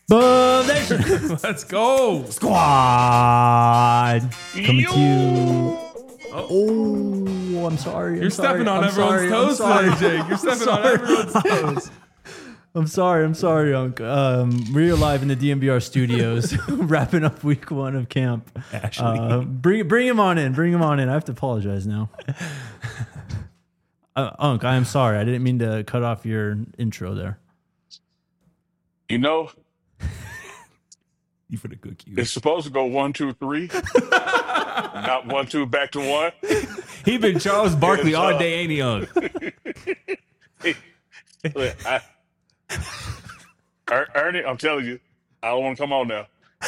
Boom Nation. Let's go. Squad. Coming to you. Oh, I'm sorry. You're stepping on everyone's toes today, Jake. You're stepping on everyone's toes. I'm sorry, Unc. We're live in the DMVR studios, wrapping up week 1 of camp. Actually, bring him on in. I have to apologize now. Unc, I am sorry. I didn't mean to cut off your intro there. You know, you for the good cue. it's supposed to go 1, 2, 3, not 1, 2, back to 1. He been Charles Barkley Yes, all day, ain't he? On Look, Ernie, I'm telling you, I don't want to come on now.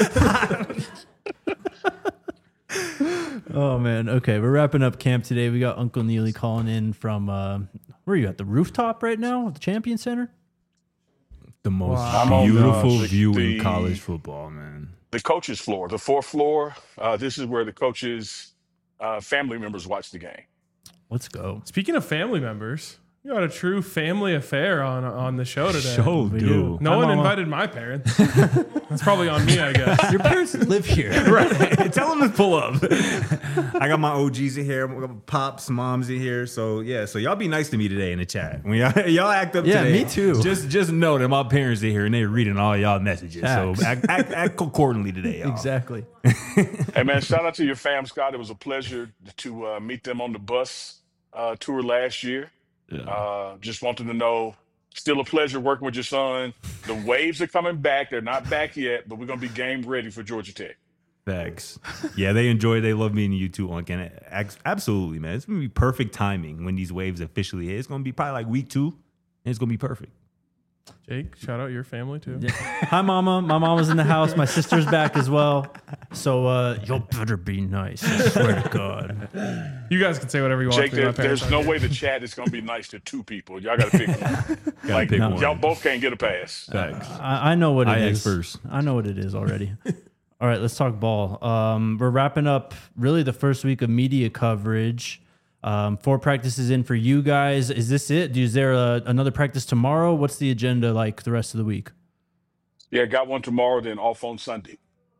Oh man. Okay, we're wrapping up camp today. We got Uncle Neely calling in from where are you at the rooftop right now at the Champion Center? the most Wow. beautiful The- view the- in college football, man. The coaches' floor, the 4th floor. This is where the coaches' family members watch the game. Let's go. Speaking of family members, you got a true family affair on the show today. Show, We dude. do. No Hi, one Mama. invited my parents. That's probably on me, I guess. Your parents live here. Right. Tell them to pull up. I got my OGs in here, I got pops, moms in here. So yeah, so y'all be nice to me today in the chat. When y'all act up Yeah, today. me too. Just know that my parents are here and they're reading all y'all messages. Facts. So act accordingly today, y'all. Exactly. Hey, man, shout out to your fam, Scott. It was a pleasure to meet them on the bus tour last year. Just wanted to know, still a pleasure working with your son. The waves are coming back. They're not back yet, but we're going to be game ready for Georgia Tech. Thanks. Yeah, they love meeting you too, Unc. And absolutely, man. It's going to be perfect timing when these waves officially hit. It's going to be probably like week 2, and it's going to be perfect. Jake, shout out your family too. Yeah. Hi, Mama. My mama's in the house. My sister's back as well. So you better be nice. I swear to God. You guys can say whatever you want. Jake, to me. My parents there's aren't no here. way the chat is going to be nice to 2 people. Y'all got to pick one. Gotta pick one. Y'all both can't get a pass. Thanks. I know what it I is. asked first. I know what it is already. All right, let's talk ball. We're wrapping up really the first week of media coverage. 4 practices in for you guys. Is this it? Is there another practice tomorrow? What's the agenda like the rest of the week? Yeah, got one tomorrow, then off on Sunday.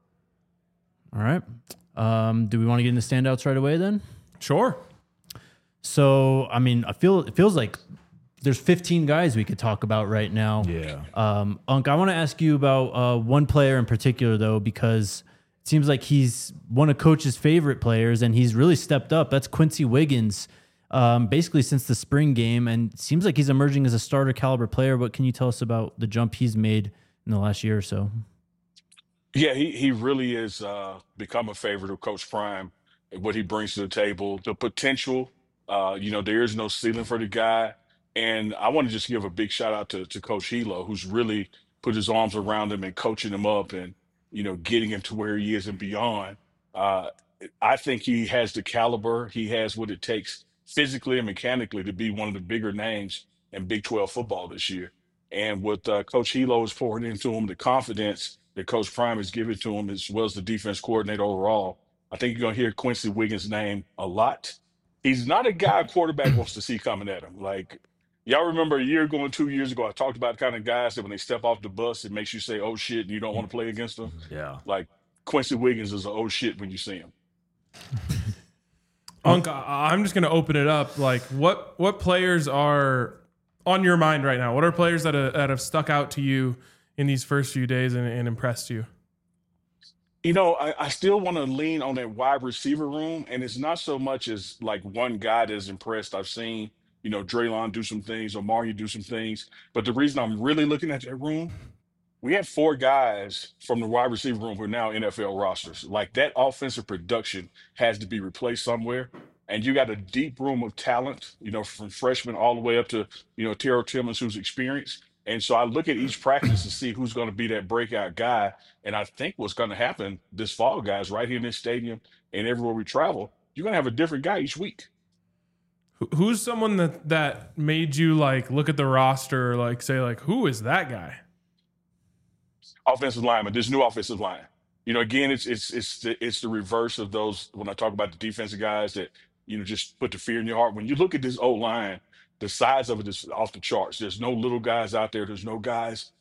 All right. Do we want to get into standouts right away then? Sure. So, I mean, it feels like there's 15 guys we could talk about right now. Yeah. Unc, I want to ask you about one player in particular, though, because it seems like he's one of Coach's favorite players, and he's really stepped up. That's Quincy Wiggins, basically since the spring game, and it seems like he's emerging as a starter caliber player. What can you tell us about the jump he's made in the last year or so? Yeah, he really is become a favorite of Coach Prime, what he brings to the table, the potential. There is no ceiling for the guy. And I want to just give a big shout out to Coach Hilo, who's really put his arms around him and coaching him up and, getting him to where he is and beyond. I think he has the caliber. He has what it takes physically and mechanically to be one of the bigger names in Big 12 football this year. And what Coach Hilo is pouring into him, the confidence that Coach Prime is giving to him, as well as the defense coordinator overall, I think you're going to hear Quincy Wiggins' name a lot. He's not a guy a quarterback wants to see coming at him. Like, y'all remember a year ago and 2 years ago, I talked about the kind of guys that when they step off the bus, it makes you say, oh shit, and you don't want to play against them. Yeah. Like, Quincy Wiggins is a oh shit when you see him. Unc, I'm just going to open it up. Like, what players are on your mind right now? What are players that have stuck out to you in these first few days and impressed you? I still want to lean on that wide receiver room, and it's not so much as like one guy that's impressed. I've seen, Draylon do some things, Omari do some things, but the reason I'm really looking at that room, we have 4 guys from the wide receiver room who are now NFL rosters. Like, that offensive production has to be replaced somewhere, and you got a deep room of talent, from freshmen all the way up to, Terrell Timmons, who's experienced. And so I look at each practice to see who's going to be that breakout guy. And I think what's going to happen this fall, guys, right here in this stadium and everywhere we travel, you're going to have a different guy each week. Who's someone that made you like look at the roster, like say like, who is that guy? Offensive lineman, this new offensive line. Again, it's the reverse of those when I talk about the defensive guys that, just put the fear in your heart. When you look at this old line, the size of it is off the charts. There's no little guys out there. There's no guys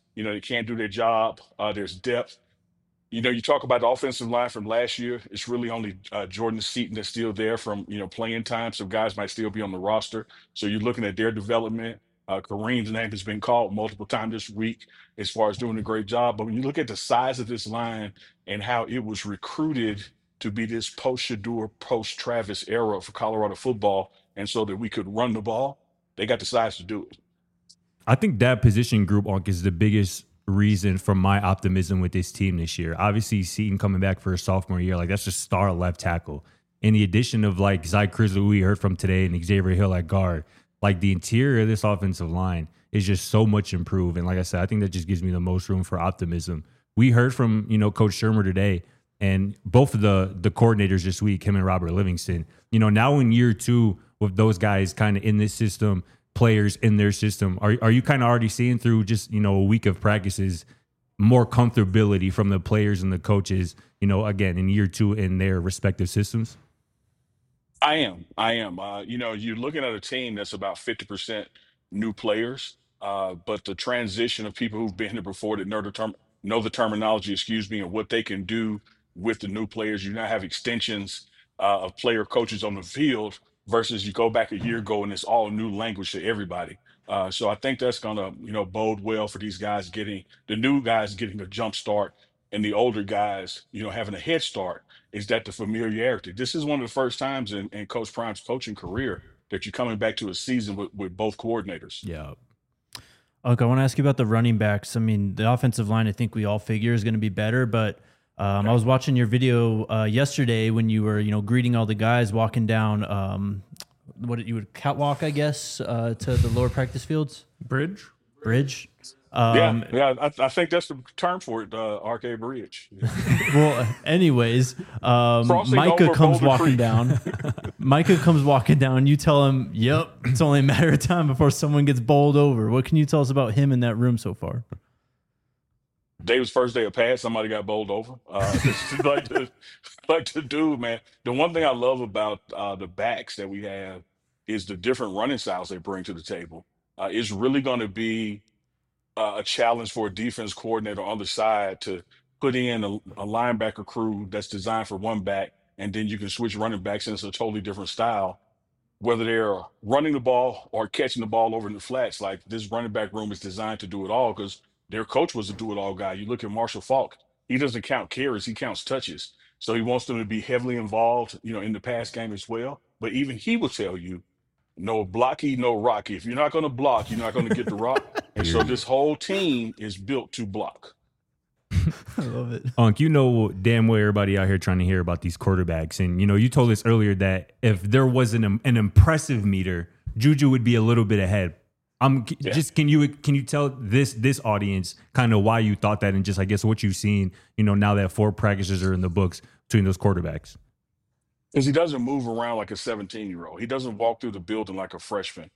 They can't do their job. There's depth. You talk about the offensive line from last year. It's really only Jordan Seaton that's still there from playing time. So guys might still be on the roster. So you're looking at their development. Kareem's name has been called multiple times this week as far as doing a great job. But when you look at the size of this line and how it was recruited to be this post Shadur, post Travis era for Colorado football, and so that we could run the ball, they got the size to do it. I think that position group, Onk, is the biggest reason for my optimism with this team this year. Obviously, Seaton coming back for a sophomore year, like that's just star left tackle. And the addition of like Zy Crizzle, who we heard from today, and Xavier Hill at guard, like the interior of this offensive line is just so much improved. And like I said, I think that just gives me the most room for optimism. We heard from, Coach Shermer today, and both of the coordinators this week, him and Robert Livingston, now in year 2 with those guys kind of in this system, players in their system, are you kind of already seeing through just, a week of practices, more comfortability from the players and the coaches, again, in year 2 in their respective systems? I am. You're looking at a team that's about 50% new players, but the transition of people who've been here before that know the terminology, and what they can do with the new players. You now have extensions of player coaches on the field versus you go back a year ago and it's all new language to everybody. So I think that's going to, bode well for these guys the new guys getting a jump start and the older guys, having a head start. Is that the familiarity? This is one of the first times in Coach Prime's coaching career that you're coming back to a season with both coordinators. Yeah. Okay, I want to ask you about the running backs. I mean, the offensive line, I think we all figure is going to be better, but I was watching your video yesterday when you were, greeting all the guys walking down what you would catwalk, I guess, to the lower practice fields. Bridge. I think that's the term for it, Arcade Bridge. Well, anyways, Micah comes walking down. Micah comes walking down. You tell him, yep, it's only a matter of time before someone gets bowled over. What can you tell us about him in that room so far? David's first day of pads, somebody got bowled over. This is like the dude, man. The one thing I love about the backs that we have is the different running styles they bring to the table. It's really going to be a challenge for a defense coordinator on the side to put in a linebacker crew that's designed for one back, and then you can switch running backs and it's a totally different style, whether they're running the ball or catching the ball over in the flats. Like this running back room is designed to do it all because their coach was a do-it-all guy. You look at Marshall Faulk, he doesn't count carries, he counts touches. So he wants them to be heavily involved, in the pass game as well. But even he will tell you, no blocky, no rocky. If you're not going to block, you're not going to get the rock. And so this whole team is built to block. I love it. Unc, damn well everybody out here trying to hear about these quarterbacks. And, you told us earlier that if there wasn't an impressive meter, Juju would be a little bit ahead. Just can you tell this audience kind of why you thought that and just, I guess, what you've seen, now that 4 practices are in the books between those quarterbacks? Because he doesn't move around like a 17-year-old. He doesn't walk through the building like a freshman.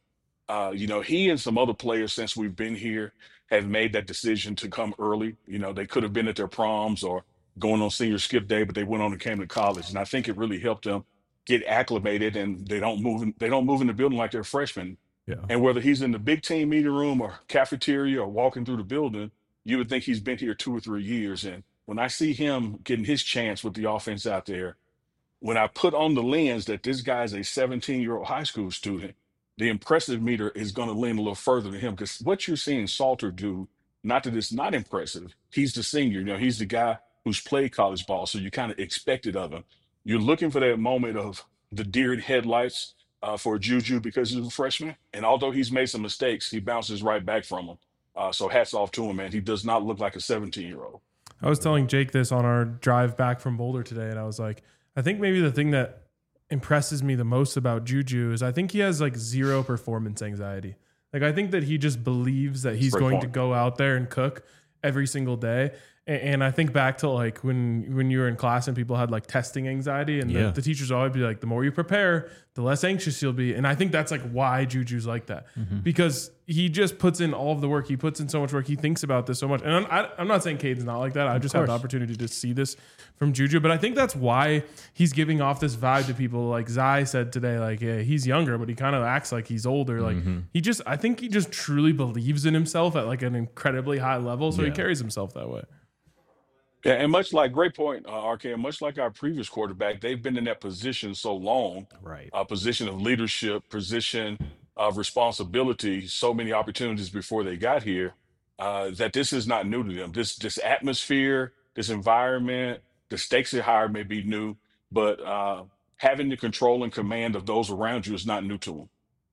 He and some other players since we've been here have made that decision to come early. They could have been at their proms or going on senior skip day, but they went on and came to college. And I think it really helped them get acclimated, and they don't move in the building like they're freshmen. Yeah. And whether he's in the big team meeting room or cafeteria or walking through the building, you would think he's been here 2 or 3 years. And when I see him getting his chance with the offense out there, when I put on the lens that this guy's a 17-year-old high school student, the impressive meter is going to lean a little further to him, because what you're seeing Salter do, not that it's not impressive, he's the senior, he's the guy who's played college ball, so you kind of expect it of him. You're looking for that moment of the deer in headlights for Juju because he's a freshman, and although he's made some mistakes, he bounces right back from them. So hats off to him, man. He does not look like a 17-year-old. I was telling Jake this on our drive back from Boulder today, and I was like, I think maybe the thing that impresses me the most about Juju is I think he has like zero performance anxiety. Like I think that he just believes that he's going to go out there and cook every single day. And I think back to like when you were in class and people had like testing anxiety, and Yeah. the teachers always be like, the more you prepare, the less anxious you'll be. And I think that's like why Juju's like that, because he just puts in all of the work. He puts in so much work. He thinks about this so much. And I'm not saying Cade's not like that. I just had the opportunity to see this from Juju, but I think that's why he's giving off this vibe to people. Like Zai said today, like, yeah, he's younger, but he kind of acts like he's older. Like I think he just truly believes in himself at like an incredibly high level. So he carries himself that way. Yeah, and much like great point, RK, and much like our previous quarterback, they've been in that position so long, Right. position of leadership, position of responsibility, so many opportunities before they got here, that this is not new to them. This atmosphere, this environment, the stakes are higher may be new, but having the control and command of those around you is not new to them.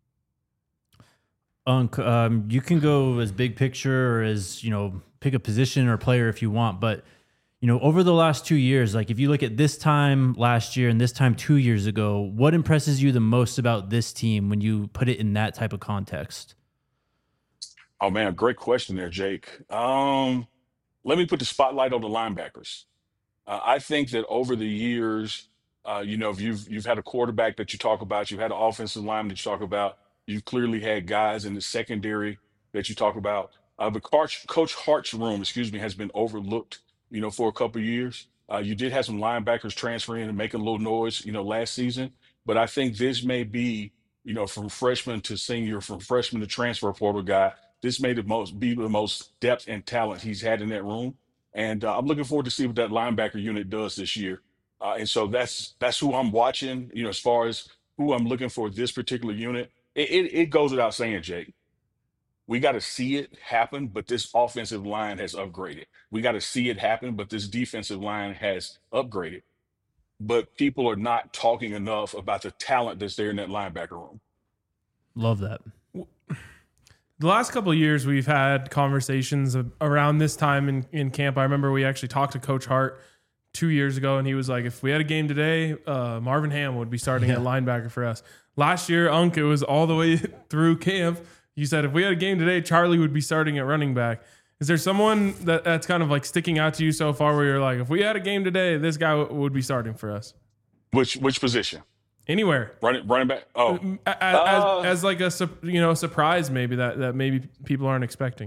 Unc, you can go as big picture or as, pick a position or player if you want. But, over the last 2 years, like if you look at this time last year and this time 2 years ago, what impresses you the most about this team when you put it in that type of context? Oh man, great question there, Jake. Let me put the spotlight on the linebackers. I think that over the years, if you've had a quarterback that you talk about, you've had an offensive lineman that you talk about, you've clearly had guys in the secondary that you talk about. But Coach Hart's room, excuse me, has been overlooked, for a couple of years. You did have some linebackers transferring and making a little noise, last season. But I think this may be, from freshman to senior, from freshman to transfer portal guy, this may be the most depth and talent he's had in that room. And I'm looking forward to see what that linebacker unit does this year. And so that's who I'm watching, as far as who I'm looking for this particular unit. It goes without saying, Jake. We got to see it happen, but this offensive line has upgraded. We got to see it happen, but this defensive line has upgraded. But people are not talking enough about the talent that's there in that linebacker room. Love that. The last couple of years, we've had conversations around this time in camp. I remember we actually talked to Coach Hart 2 years ago, and he was like, if we had a game today, Marvin Ham would be starting at linebacker for us. Last year, Unc, it was all the way through camp. You said if we had a game today, Charlie would be starting at running back. Is there someone that's kind of like sticking out to you so far where you're like, if we had a game today, this guy would be starting for us? Which position? Anywhere. Running back? Oh. As like a surprise maybe that maybe people aren't expecting.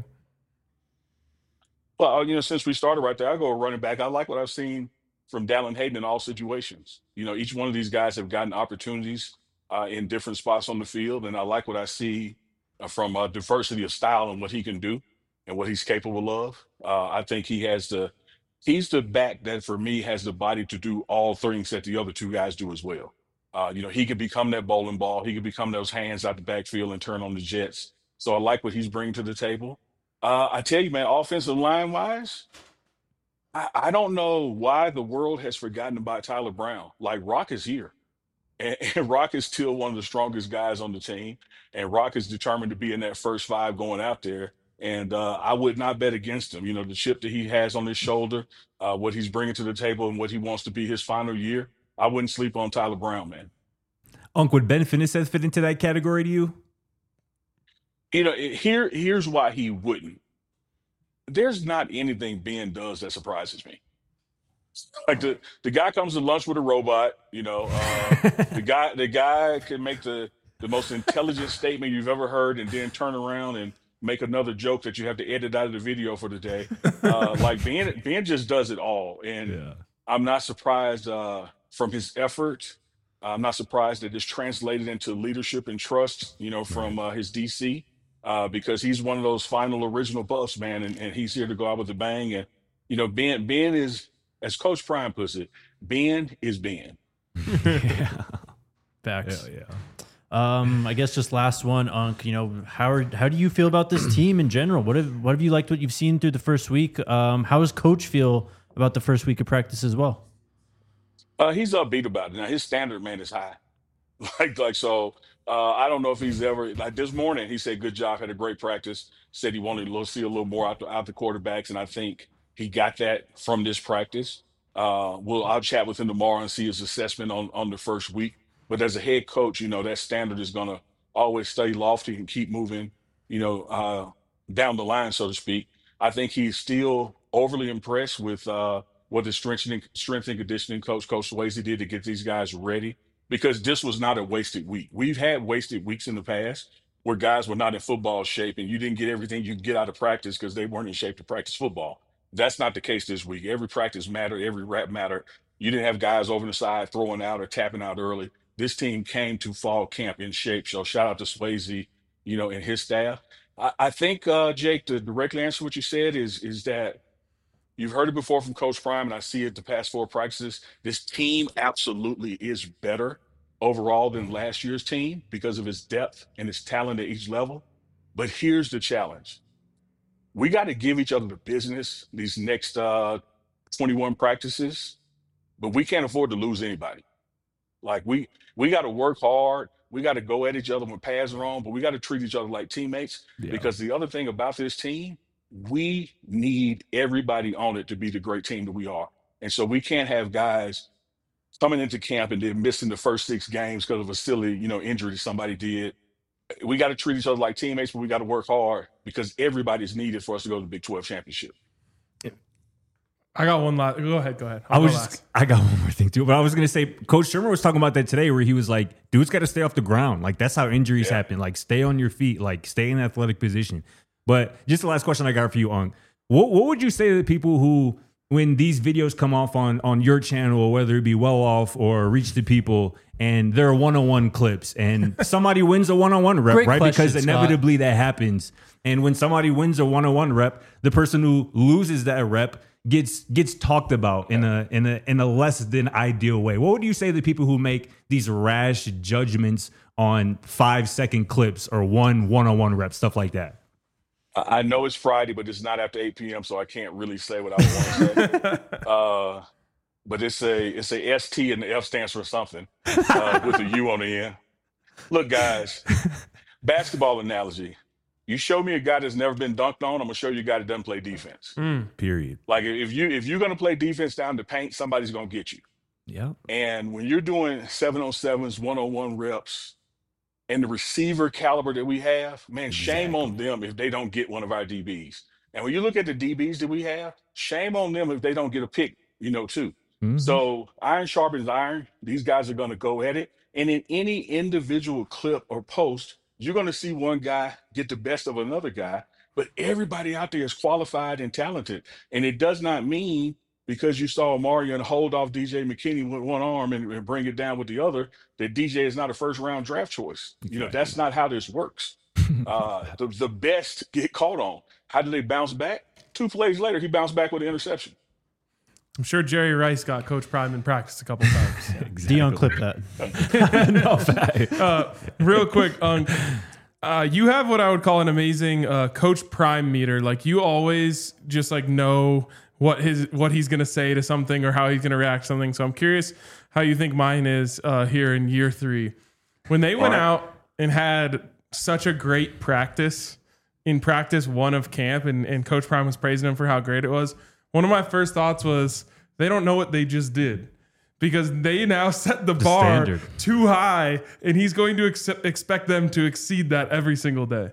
Well, since we started right there, I go running back. I like what I've seen from Dallin Hayden in all situations. Each one of these guys have gotten opportunities in different spots on the field, and I like what I see from diversity of style and what he can do and what he's capable of. I think he's the back that for me has the body to do all things that the other two guys do as well. He could become that bowling ball. He could become those hands out the backfield and turn on the jets. So I like what he's bringing to the table. I tell you, man, offensive line wise, I don't know why the world has forgotten about Tyler Brown. Like Rock is here. And Rock is still one of the strongest guys on the team. And Rock is determined to be in that first five going out there. And I would not bet against him. The chip that he has on his shoulder, what he's bringing to the table and what he wants to be his final year. I wouldn't sleep on Tyler Brown, man. Unc, would Ben Finesse fit into that category to you? Here's why he wouldn't. There's not anything Ben does that surprises me. Like the guy comes to lunch with a robot, the guy can make the most intelligent statement you've ever heard and then turn around and make another joke that you have to edit out of the video for the day. Like Ben just does it all. And I'm not surprised from his effort. I'm not surprised that it's translated into leadership and trust, from his DC, because he's one of those final original buffs, man. And he's here to go out with a bang. And, Ben is, as Coach Prime puts it, Ben is Ben. Facts. I guess just last one, Unc. How do you feel about this team in general? What have you liked what you've seen through the first week? How does Coach feel about the first week of practice as well? He's upbeat about it. Now his standard, man, is high. So. I don't know if he's ever like this morning. He said, "Good job, had a great practice." Said he wanted to see a little more out the quarterbacks, and I think he got that from this practice. I'll chat with him tomorrow and see his assessment on the first week. But as a head coach, that standard is going to always stay lofty and keep moving, down the line, so to speak. I think he's still overly impressed with what the strength and conditioning Coach Swayze did to get these guys ready, because this was not a wasted week. We've had wasted weeks in the past where guys were not in football shape and you didn't get everything you could get out of practice because they weren't in shape to practice football. That's not the case this week. Every practice mattered, every rep mattered. You didn't have guys over the side throwing out or tapping out early. This team came to fall camp in shape. So shout out to Swayze, and his staff. I think, Jake, to directly answer what you said is that you've heard it before from Coach Prime, and I see it the past 4 practices. This team absolutely is better overall than last year's team because of its depth and its talent at each level. But here's the challenge. We got to give each other the business these next 21 practices, but we can't afford to lose anybody. Like we got to work hard. We got to go at each other when pads are on, but we got to treat each other like teammates. Yeah. Because the other thing about this team, we need everybody on it to be the great team that we are. And so we can't have guys coming into camp and then missing the first 6 games because of a silly, injury somebody did. We got to treat each other like teammates, but we got to work hard because everybody's needed for us to go to the Big 12 championship. I got one last. Go ahead. I got one more thing too, but I was gonna say, Coach Shermer was talking about that today, where he was like, "Dudes got to stay off the ground. Like that's how injuries happen. Like stay on your feet. Like stay in athletic position." But just the last question I got for you, Ung, what would you say to the people who, when these videos come off on your channel, whether it be Well Off or Reach the People, and there are one-on-one clips, and somebody wins a one-on-one rep, Great right? question, Because inevitably that happens. And when somebody wins a one-on-one rep, the person who loses that rep gets talked about in a less than ideal way. What would you say to the people who make these rash judgments on 5-second clips or one-on-one rep, stuff like that? I know it's Friday, but it's not after 8 p.m., so I can't really say what I want to say. But it's a ST and the F stands for something with a U on the end. Look, guys, basketball analogy. You show me a guy that's never been dunked on, I'm gonna show you a guy that doesn't play defense. Period. Like if you're gonna play defense down the paint, somebody's gonna get you. Yeah. And when you're doing 7-on-7s, 1-on-1 reps, and the receiver caliber that we have, man, shame on them if they don't get one of our DBs. And when you look at the DBs that we have, shame on them if they don't get a pick, too. Mm-hmm. So iron sharpens iron. These guys are going to go at it. And in any individual clip or post, you're going to see one guy get the best of another guy, but everybody out there is qualified and talented. And it does not mean because you saw Omarion hold off DJ McKinney with one arm and bring it down with the other, that DJ is not a first round draft choice. Exactly. That's not how this works. The best get caught on. How did they bounce back? 2 plays later, he bounced back with an interception. I'm sure Jerry Rice got Coach Prime in practice a couple times. Exactly. Dion, clip that. No, fact. Real quick, you have what I would call an amazing Coach Prime meter. Like you always just like know what he's gonna say to something or how he's gonna react to something. So I'm curious how you think mine is here in year 3. When they went out and had such a great practice in practice 1 of camp, and Coach Prime was praising him for how great it was. One of my first thoughts was they don't know what they just did, because they now set the bar standard too high, and he's going to expect them to exceed that every single day.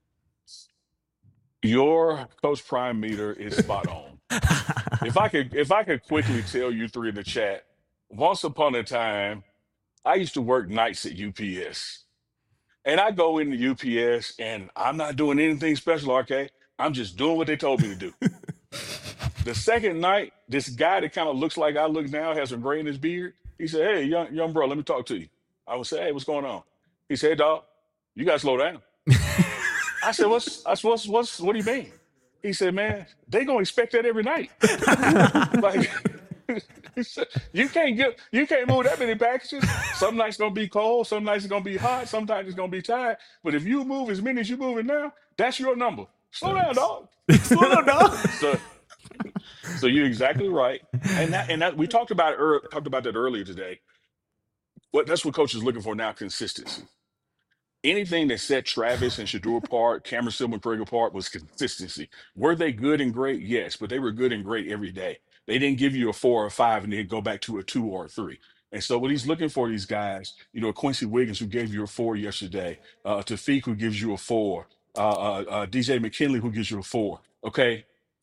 Your Coach Prime meter is spot on. If I could quickly tell you 3 in the chat, once upon a time, I used to work nights at UPS. And I go into UPS and I'm not doing anything special, RK. I'm just doing what they told me to do. The second night, this guy that kind of looks like I look now, has some gray in his beard. He said, "Hey, young bro, let me talk to you." I would say, "Hey, what's going on?" He said, "Hey, dog, you gotta slow down." I said, what do you mean? He said, "Man, they gonna expect that every night." Like, you can't move that many packages. Some nights gonna be cold, some nights it's gonna be hot, sometimes it's gonna be tired. But if you move as many as you're moving now, that's your number. Slow down, dog. Slow down, dog. So you're exactly right. And that we talked about that earlier today. That's what coach is looking for now: consistency. Anything that set Travis and Shedeur apart, Cameron Silver and Craig apart, was consistency. Were they good and great? Yes, but they were good and great every day. They didn't give you a 4 or a 5 and then go back to a 2 or a 3. And so what he's looking for, these guys, Quincy Wiggins, who gave you a 4 yesterday, Tafik, who gives you a 4, DJ McKinley, who gives you a 4. Okay,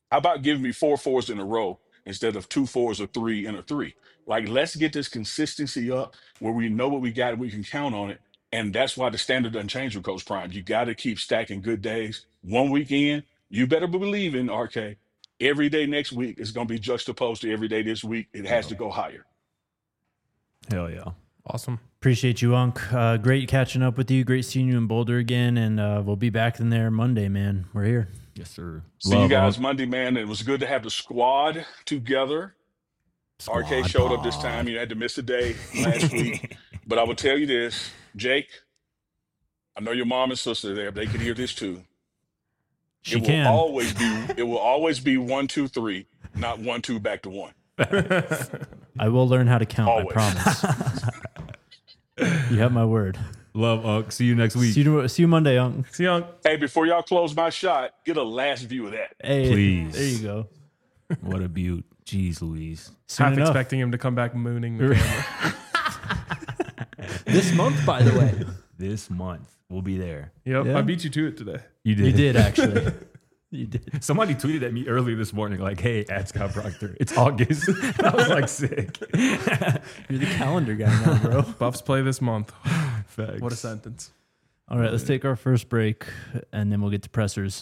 How about giving me 4 4s in a row instead of 2 4s or 3 and a 3? Like, let's get this consistency up where we know what we got and we can count on it. And that's why the standard doesn't change with Coach Prime. You got to keep stacking good days. One weekend, you better believe in RK. Every day next week is going to be juxtaposed to every day this week. It has to go higher. Hell yeah. Awesome. Appreciate you, Unc. Great catching up with you. Great seeing you in Boulder again. And we'll be back in there Monday, man. We're here. Yes, sir. See you guys Monday, man. It was good to have the squad together. RK showed up this time. You had to miss a day last week. But I will tell you this, Jake, I know your mom and sister there. They can hear this too. She It will always be 1, 2, 3, not 1, 2 back to 1. I will learn how to count, Always. I promise. You have my word. Love, Unc. See you next week. See you Monday, Unc. See you. Hey, before y'all close my shot, get a last view of that. Hey, Please. There you go. What a beaut. Jeez Louise. Soon Half enough. expecting him to come back mooning the camera. This month, by the way. This month. We'll be there. Yep, Yeah. I beat you to it today. You did. You did, actually. You did. Somebody tweeted at me earlier this morning, like, hey, at Scott Proctor, it's August. And I was like, sick. You're the calendar guy now, bro. Buffs play this month. Facts. What a sentence. All right, let's take our first break, and then we'll get to pressers.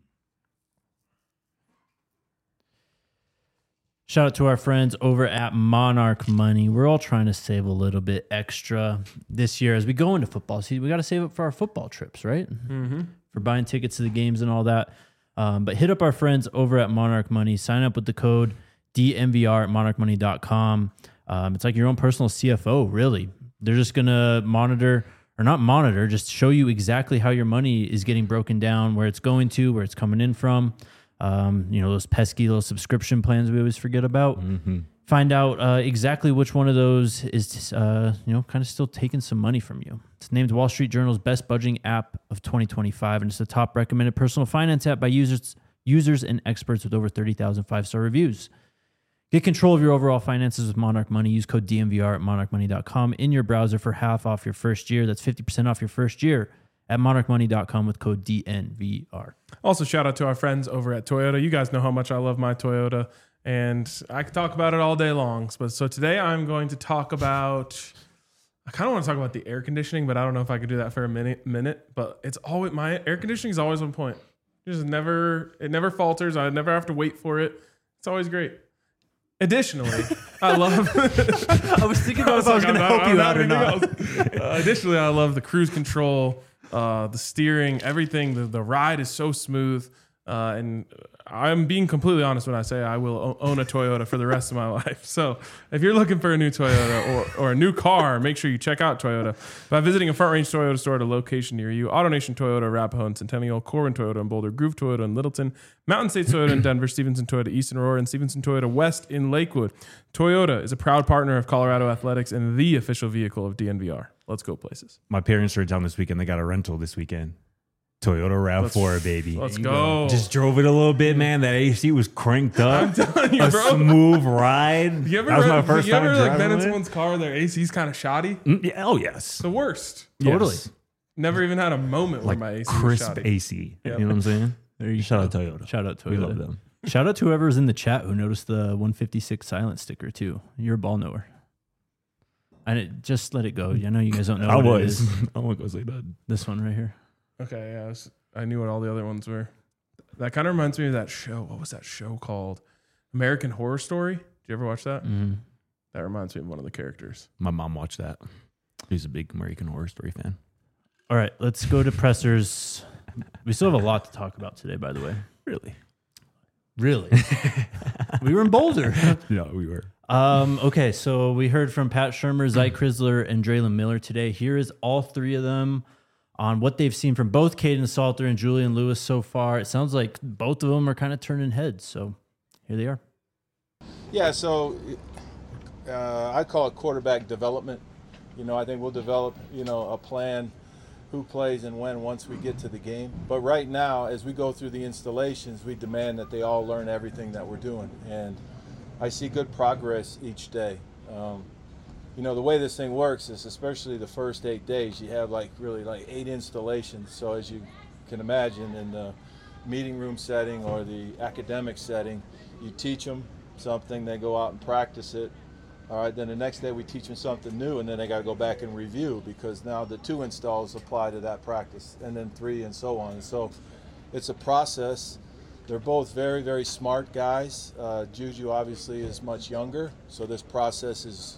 Shout out to our friends over at Monarch Money. We're all trying to save a little bit extra this year as we go into football season. We got to save up for our football trips, right? Mm-hmm. For buying tickets to the games and all that. But hit up our friends over at Monarch Money. Sign up with the code DMVR at monarchmoney.com. It's like your own personal CFO, really. They're just going to monitor, or not monitor, just show you exactly how your money is getting broken down, where it's going to, where it's coming in from. Those pesky little subscription plans we always forget about. Mm-hmm. Find out exactly which one of those is, kind of still taking some money from you. It's named Wall Street Journal's best budgeting app of 2025, and it's the top recommended personal finance app by users and experts with over 30,000 five-star reviews. Get control of your overall finances with Monarch Money. Use code DMVR at monarchmoney.com in your browser for half off your first year. That's 50% off your first year at monarchmoney.com with code DNVR. Also, shout out to our friends over at Toyota. You guys know how much I love my Toyota, and I could talk about it all day long. So today I'm going to talk about, I kind of want to talk about the air conditioning, but I don't know if I could do that for a minute. But it's always, my air conditioning is always on point. It never falters. I never have to wait for it. It's always great. Additionally, I love. I was thinking about if I was going to help you out or not. Additionally, I love the cruise control, the steering, everything. The ride is so smooth, and I'm being completely honest when I say I will own a Toyota for the rest of my life. So if you're looking for a new Toyota or a new car, make sure you check out Toyota by visiting a Front Range Toyota store at a location near you. AutoNation Toyota, Arapahoe and Centennial, Corbin Toyota in Boulder, Groove Toyota in Littleton, Mountain States Toyota in Denver, Stevenson Toyota East in Aurora, and Stevenson Toyota West in Lakewood. Toyota is a proud partner of Colorado Athletics and the official vehicle of DNVR. Let's go places. My parents were in town this weekend. They got a rental this weekend. Toyota RAV4, baby. Let's go. Just drove it a little bit, man. That AC was cranked up. I'm telling you, a bro. smooth ride. You ever that was my first time driving been in it. someone's car, their AC's kind of shoddy? Yeah, oh, yes. The worst. Totally. Yes. Never even had a moment where Like my AC was crisp shoddy. AC. Yep. You know what I'm saying? There you Shout go. out Toyota. Shout out Toyota. We love them. Shout out to whoever was in the chat who noticed the 156 silent sticker too. You're a ball knower. Just let it go. I know you guys don't know I what it was. is. I won't go say that. This one right here. Okay, yeah, I knew what all the other ones were. That kind of reminds me of that show. What was that show called? American Horror Story. Did you ever watch that? Mm-hmm. That reminds me of one of the characters. My mom watched that. She's a big American Horror Story fan. All right, let's go to pressers. We still have a lot to talk about today, by the way. Really? Really? We were in Boulder. Yeah, we were. Okay, so we heard from Pat Shermer, Zy Chrysler, and Draylon Miller today. Here is all three of them on what they've seen from both Caden Salter and Julian Lewis so far. It sounds like both of them are kind of turning heads, so here they are. Yeah, so I call it quarterback development. I think we'll develop, a plan, who plays and when once we get to the game. But right now, as we go through the installations, we demand that they all learn everything that we're doing. And I see good progress each day. The way this thing works is, especially the first 8 days, you have really 8 installations. So as you can imagine, in the meeting room setting or the academic setting, you teach them something, they go out and practice it. All right, then the next day we teach them something new, and then they got to go back and review, because now the 2 installs apply to that practice, and then 3, and so on. So it's a process. They're both very, very smart guys. Juju obviously is much younger, so this process is,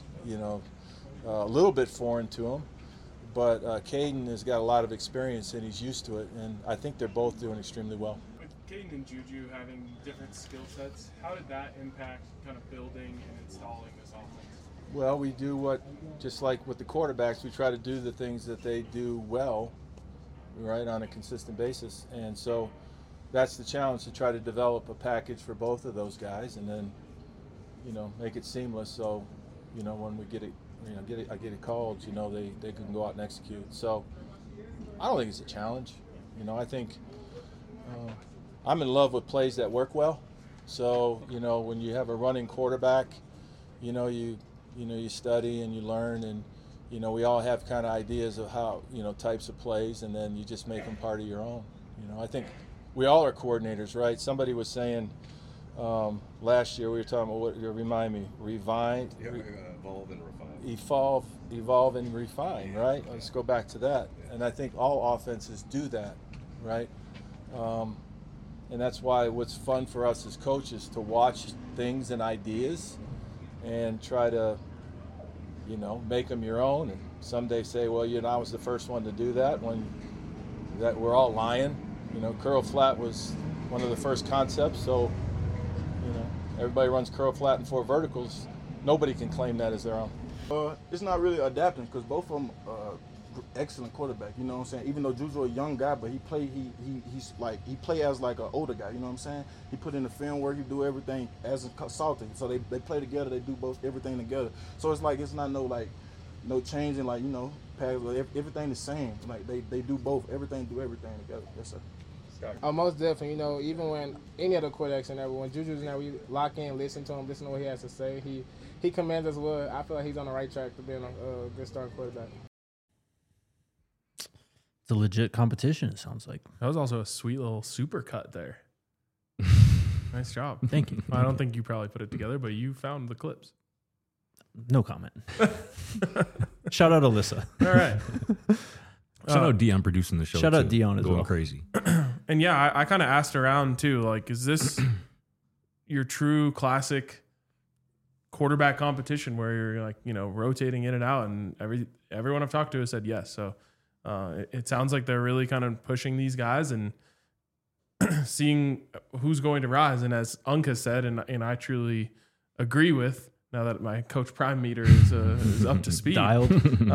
a little bit foreign to him. But Caden has got a lot of experience, and he's used to it, and I think they're both doing extremely well. With Caden and Juju having different skill sets, how did that impact kind of building and installing this offense? Well, we do just like with the quarterbacks, we try to do the things that they do well, right, on a consistent basis. And so that's the challenge, to try to develop a package for both of those guys, and then, make it seamless. So, when we get it, I get it called, they can go out and execute. So I don't think it's a challenge. I think I'm in love with plays that work well. So, when you have a running quarterback, you study and you learn, and we all have kind of ideas of how types of plays, and then you just make them part of your own. I think we all are coordinators, right? Somebody was saying last year, we were talking about, what, remind me, Evolve and refine. Evolve and refine, right? Let's go back to that. And I think all offenses do that, right? And that's why what's fun for us as coaches, to watch things and ideas and try to, make them your own. And someday say, well, I was the first one to do that, when that we're all lying. Curl flat was one of the first concepts, so, everybody runs curl flat and 4 verticals. Nobody can claim that as their own. It's not really adapting, because both of them excellent quarterback. You know what I'm saying? Even though Juju a young guy, but he play as like an older guy. You know what I'm saying? He put in the film work. He do everything as a consultant. So they play together. They do everything together. So it's like, it's not no changing, pass, everything the same. Like they do both. Everything together. Yes, sir. Most definitely. Even when any other quarterbacks and everyone, Juju's now, we lock in, listen to him, listen to what he has to say. He commands us well. I feel like he's on the right track to being a good starting quarterback. It's a legit competition, it sounds like. That was also a sweet little super cut there. Nice job. Thank you. I don't think you probably put it together, but you found the clips. No comment. Shout out Alyssa. All right. Shout out Dion producing the show. Shout out Dion as going well. Crazy. And yeah, I kind of asked around too, like, is this your true classic quarterback competition where you're like, rotating in and out? And everyone I've talked to has said yes. So it sounds like they're really kind of pushing these guys and seeing who's going to rise. And as Unk has said, and I truly agree with, now that my Coach Prime meter is up to speed, Dialed.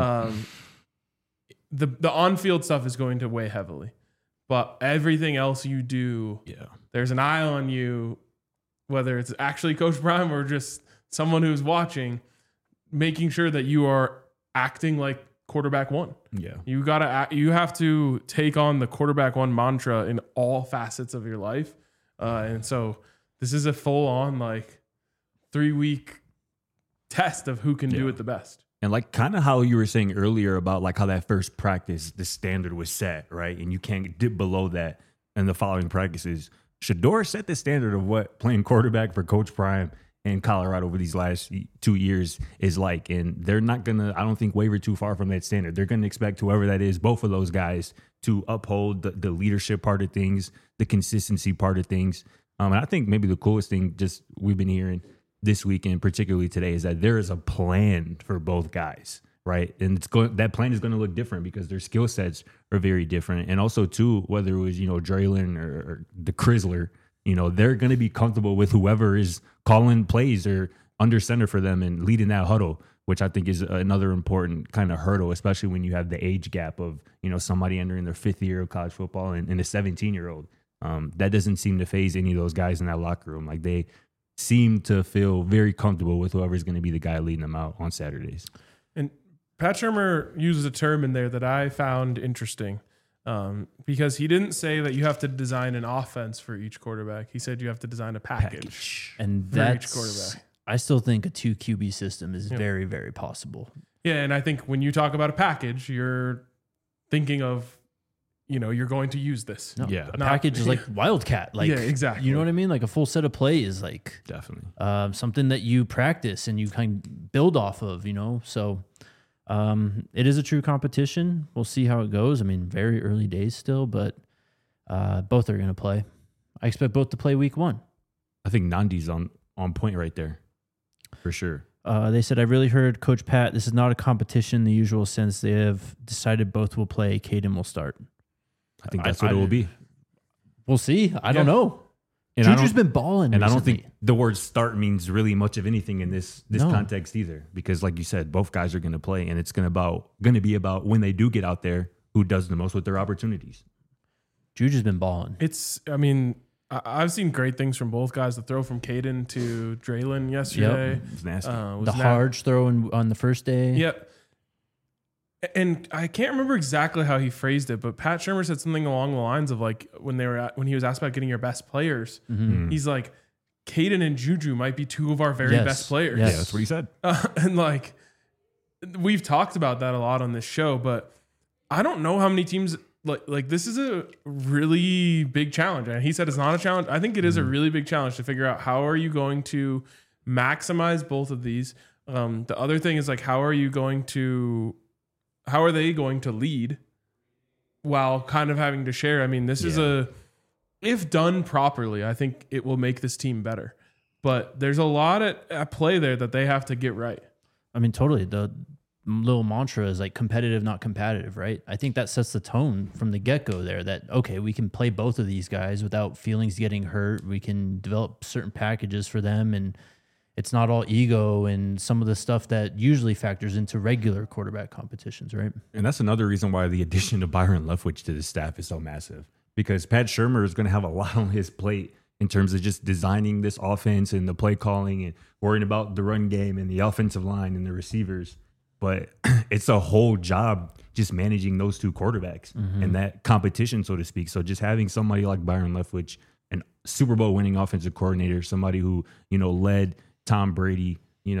The on-field stuff is going to weigh heavily. But everything else you do, there's an eye on you, whether it's actually Coach Prime or just someone who's watching, making sure that you are acting like quarterback one. Yeah. You have to take on the quarterback one mantra in all facets of your life. And so this is a full-on 3-week test of who can do it the best. And kind of how you were saying earlier about how that first practice, the standard was set, right? And you can't dip below that in the following practices. Shedeur set the standard of what playing quarterback for Coach Prime in Colorado over these last 2 years is like. And they're not going to, I don't think, waver too far from that standard. They're going to expect whoever that is, both of those guys, to uphold the leadership part of things, the consistency part of things. And I think maybe the coolest thing just we've been hearing this weekend, particularly today, is that there is a plan for both guys, right? And that plan is going to look different because their skill sets are very different. And also, too, whether it was, Draylon or the Chrysler, they're going to be comfortable with whoever is calling plays or under center for them and leading that huddle, which I think is another important kind of hurdle, especially when you have the age gap of, somebody entering their 5th year of college football and a 17-year-old. That doesn't seem to phase any of those guys in that locker room. They seem to feel very comfortable with whoever's going to be the guy leading them out on Saturdays. And Pat Shurmur uses a term in there that I found interesting because he didn't say that you have to design an offense for each quarterback. He said you have to design a package. And for each quarterback. I still think a 2 QB system is very, very possible. Yeah, and I think when you talk about a package, you're thinking of, you're going to use this. No, Yeah. a package is like Wildcat. Like, Yeah, exactly. You know what I mean? Like a full set of plays, like Definitely. something that you practice and you kind of build off of, So it is a true competition. We'll see how it goes. I mean, very early days still, but both are going to play. I expect both to play week 1. I think Nandi's on point right there, for sure. They said, I really heard Coach Pat, this is not a competition in the usual sense. They have decided both will play. Caden will start. I think that's what it will be. We'll see. I don't know. And I Juju's don't- been balling And I don't recently. think the word start means really much of anything in this No. context either, because like you said, both guys are going to play, and it's going to be about when they do get out there, who does the most with their opportunities. Juju's been balling. I've seen great things from both guys. The throw from Caden to Draylon yesterday. It's nasty. Was The Harge throw on the first day. Yep. And I can't remember exactly how he phrased it, but Pat Shermer said something along the lines of like when he was asked about getting your best players, he's like, Caden and Juju might be two of our very Yes. best players. Yes. Yeah, that's what he said. And like we've talked about that a lot on this show, but I don't know how many teams like this is a really big challenge. And he said it's not a challenge. I think it is a really big challenge to figure out how are you going to maximize both of these. The other thing is like how are they going to lead while kind of having to share? I mean, this is if done properly, I think it will make this team better. But there's a lot at play there that they have to get right. I mean, totally. The little mantra is like competitive, not competitive, right? I think that sets the tone from the get-go there that, okay, we can play both of these guys without feelings getting hurt. We can develop certain packages for them, and it's not all ego and some of the stuff that usually factors into regular quarterback competitions, right? And that's another reason why the addition of Byron Leftwich to the staff is so massive, because Pat Shermer is going to have a lot on his plate in terms of just designing this offense and the play calling and worrying about the run game and the offensive line and the receivers. But it's a whole job just managing those two quarterbacks and that competition, so to speak. So just having somebody like Byron Leftwich, an Super Bowl winning offensive coordinator, somebody who, led Tom Brady,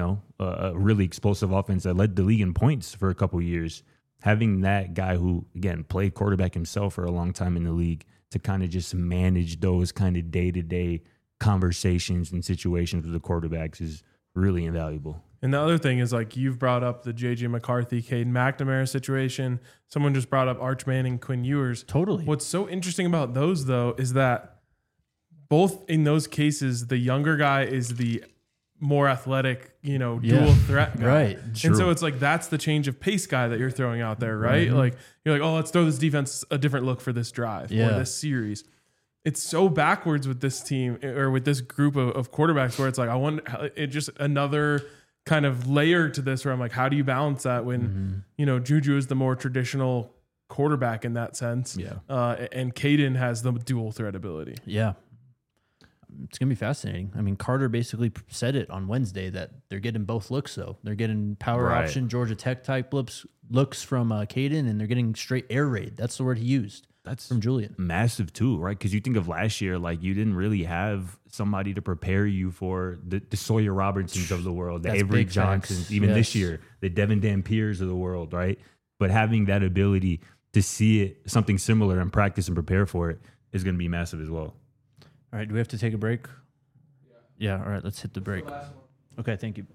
a really explosive offense that led the league in points for a couple of years. Having that guy who, again, played quarterback himself for a long time in the league to kind of just manage those kind of day-to-day conversations and situations with the quarterbacks is really invaluable. And the other thing is like you've brought up the J.J. McCarthy, Caden McNamara situation. Someone just brought up Arch Manning, Quinn Ewers. Totally. What's so interesting about those, though, is that both in those cases, the younger guy is the more athletic, dual threat guy. Right. And so it's like that's the change of pace guy that you're throwing out there, right? Like you're like, oh, let's throw this defense a different look for this drive or this series. It's so backwards with this team or with this group of quarterbacks where it's like, I want it just another kind of layer to this where I'm like, how do you balance that when, Juju is the more traditional quarterback in that sense. Yeah. And Caden has the dual threat ability. Yeah. It's going to be fascinating. I mean, Carter basically said it on Wednesday that they're getting both looks, though. They're getting power Right. option, Georgia Tech type looks from Caden, and they're getting straight air raid. That's the word he used. That's from Julian. Massive too, right? Because you think of last year, like you didn't really have somebody to prepare you for the Sawyer Robertsons of the world, the That's Avery big facts. Johnsons, even this year, the Devin Dampiers of the world, right? But having that ability to see it, something similar and practice and prepare for it is going to be massive as well. All right, do we have to take a break? Yeah, all right, let's hit the break. Okay, thank you.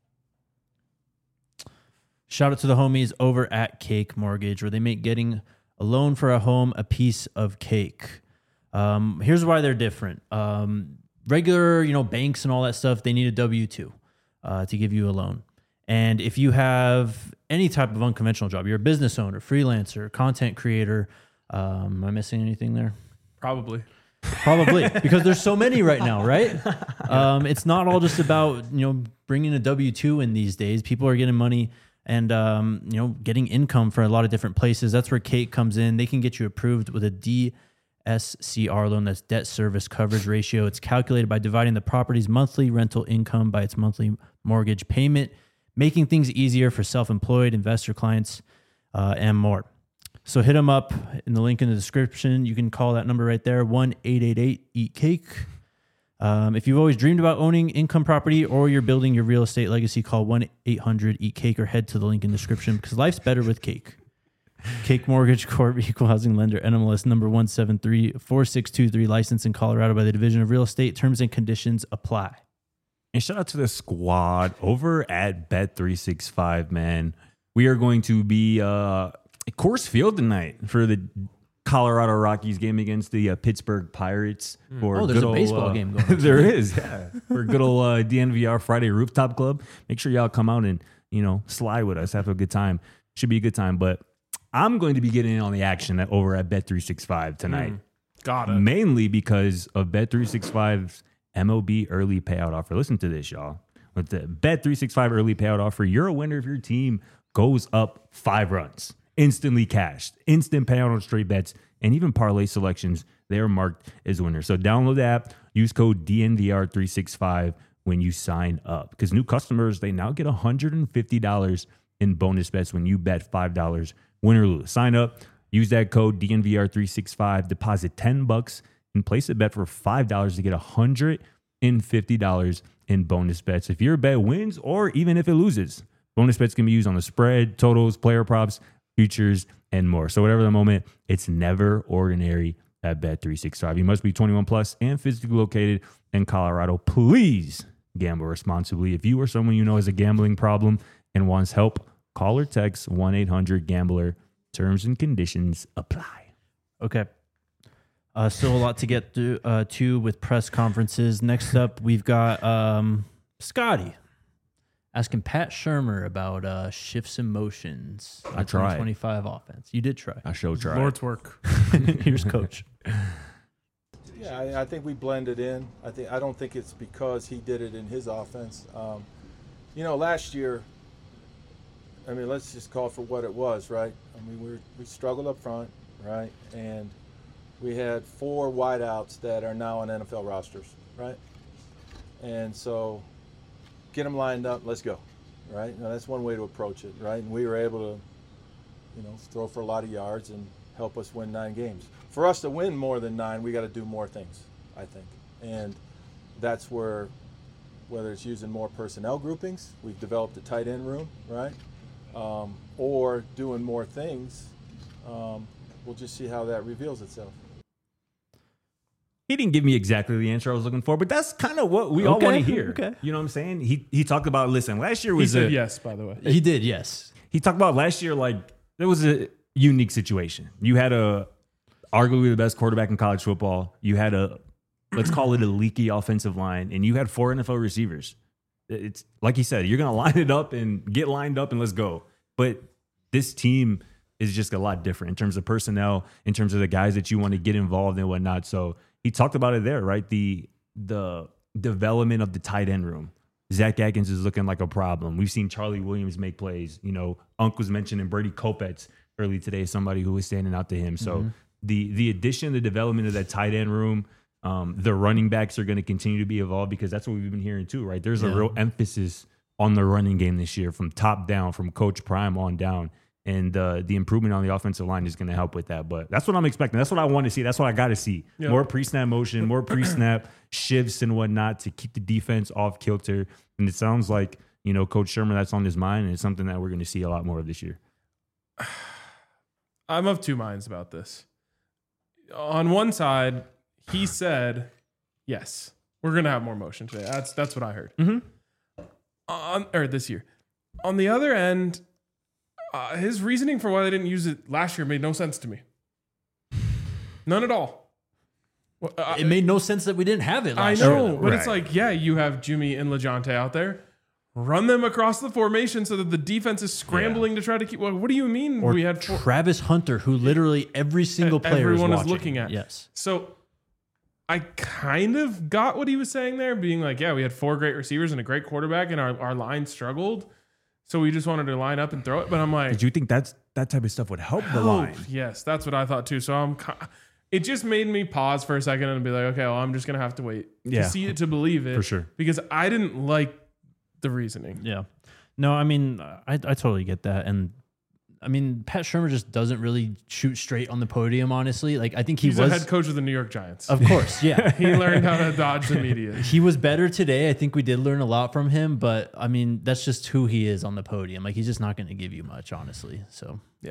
Shout out to the homies over at Cake Mortgage, where they make getting a loan for a home a piece of cake. Here's why they're different. Regular, banks and all that stuff, they need a W-2 to give you a loan. And if you have any type of unconventional job, you're a business owner, freelancer, content creator, am I missing anything there? Probably, because there's so many right now, right? It's not all just about, bringing a W-2 in these days. People are getting money and, getting income for a lot of different places. That's where Cake comes in. They can get you approved with a DSCR loan. That's debt service coverage ratio. It's calculated by dividing the property's monthly rental income by its monthly mortgage payment, making things easier for self-employed investor clients and more. So hit them up in the link in the description. You can call that number right there, 1-888-EAT-CAKE. If you've always dreamed about owning income property or you're building your real estate legacy, call 1-800-EAT-CAKE or head to the link in the description because life's better with cake. Cake Mortgage Corp, equal housing lender, NMLS number 1734623, licensed in Colorado by the Division of Real Estate. Terms and conditions apply. And shout out to the squad over at Bet365, man. We are going to be at Coors Field tonight for the Colorado Rockies game against the Pittsburgh Pirates. For there's good a old, baseball game going on. There is, yeah. For good old DNVR Friday Rooftop Club. Make sure y'all come out and, slide with us. Have a good time. Should be a good time. But I'm going to be getting in on the action over at Bet365 tonight. Got it. Mainly because of Bet365's MLB early payout offer. Listen to this, y'all. With the Bet365 early payout offer, you're a winner if your team goes up 5 runs. Instantly cashed. Instant payout on straight bets. And even parlay selections, they are marked as winners. So download the app. Use code DNVR365 when you sign up. Because new customers, they now get $150 in bonus bets when you bet $5, win or lose. Sign up. Use that code DNVR365. Deposit $10 and place a bet for $5 to get $150 in bonus bets. If your bet wins or even if it loses, bonus bets can be used on the spread, totals, player props, futures, and more. So whatever the moment, it's never ordinary at Bet365. You must be 21 plus and physically located in Colorado. Please gamble responsibly. If you or someone you know has a gambling problem and wants help, call or text 1-800-GAMBLER. Terms and conditions apply. Okay. Still a lot to get to with press conferences. Next up, we've got Scotty asking Pat Shurmur about shifts and motions. I tried. 2025 offense. You did try. I sure tried. Lord's work. Here's Coach. Yeah, I think we blended in. I don't think it's because he did it in his offense. Last year, let's just call it for what it was, right? We struggled up front, right? And we had 4 wideouts that are now on NFL rosters, right? And so get them lined up, let's go, right? Now, that's one way to approach it, right? And we were able to, throw for a lot of yards and help us win 9 games. For us to win more than 9, we got to do more things, I think. And that's where, whether it's using more personnel groupings, we've developed a tight end room, right? Or doing more things, we'll just see how that reveals itself. He didn't give me exactly the answer I was looking for, but that's kind of what we all want to hear. Okay. You know what I'm saying? He talked about, listen, last year He was said yes, by the way. He did, yes. He talked about last year, like, there was a unique situation. You had arguably the best quarterback in college football. You had let's call it a leaky offensive line, and you had 4 NFL receivers. It's like he said, you're going to line it up and get lined up and let's go. But this team is just a lot different in terms of personnel, in terms of the guys that you want to get involved and whatnot. So he talked about it there, right? The development of the tight end room. Zach Atkins is looking like a problem. We've seen Charlie Williams make plays. Unc was mentioning Brady Kopetz early today, somebody who was standing out to him. So the addition, the development of that tight end room, the running backs are going to continue to be evolved because that's what we've been hearing too, right? There's a real emphasis on the running game this year from top down, from Coach Prime on down. And the improvement on the offensive line is going to help with that. But that's what I'm expecting. That's what I want to see. That's what I got to see. Yep. More pre-snap motion, more pre-snap shifts and whatnot to keep the defense off kilter. And it sounds like, Coach Shurmur, that's on his mind. And it's something that we're going to see a lot more of this year. I'm of 2 minds about this. On one side, he said, yes, we're going to have more motion today. That's what I heard. Or this year. On the other end, his reasoning for why they didn't use it last year made no sense to me. None at all. It made no sense that we didn't have it last year. I know, but it's like, yeah, you have Jimmy and LeJontay out there. Run them across the formation so that the defense is scrambling to try to keep. Well, what do you mean Or we had Travis Hunter, who literally every single player everyone is looking at? Yes. So I kind of got what he was saying there, being like, yeah, we had 4 great receivers and a great quarterback, and our line struggled. So we just wanted to line up and throw it. But I'm like, did you think that type of stuff would help the line? Yes, that's what I thought too. So it just made me pause for a second and be like, okay, well, I'm just going to have to wait to see it to believe it. For sure. Because I didn't like the reasoning. Yeah. No, I totally get that. And Pat Shurmur just doesn't really shoot straight on the podium, honestly. Like, I think he's a head coach of the New York Giants. Of course, yeah. He learned how to dodge the media. He was better today. I think we did learn a lot from him, but that's just who he is on the podium. Like, he's just not going to give you much, honestly. So, yeah.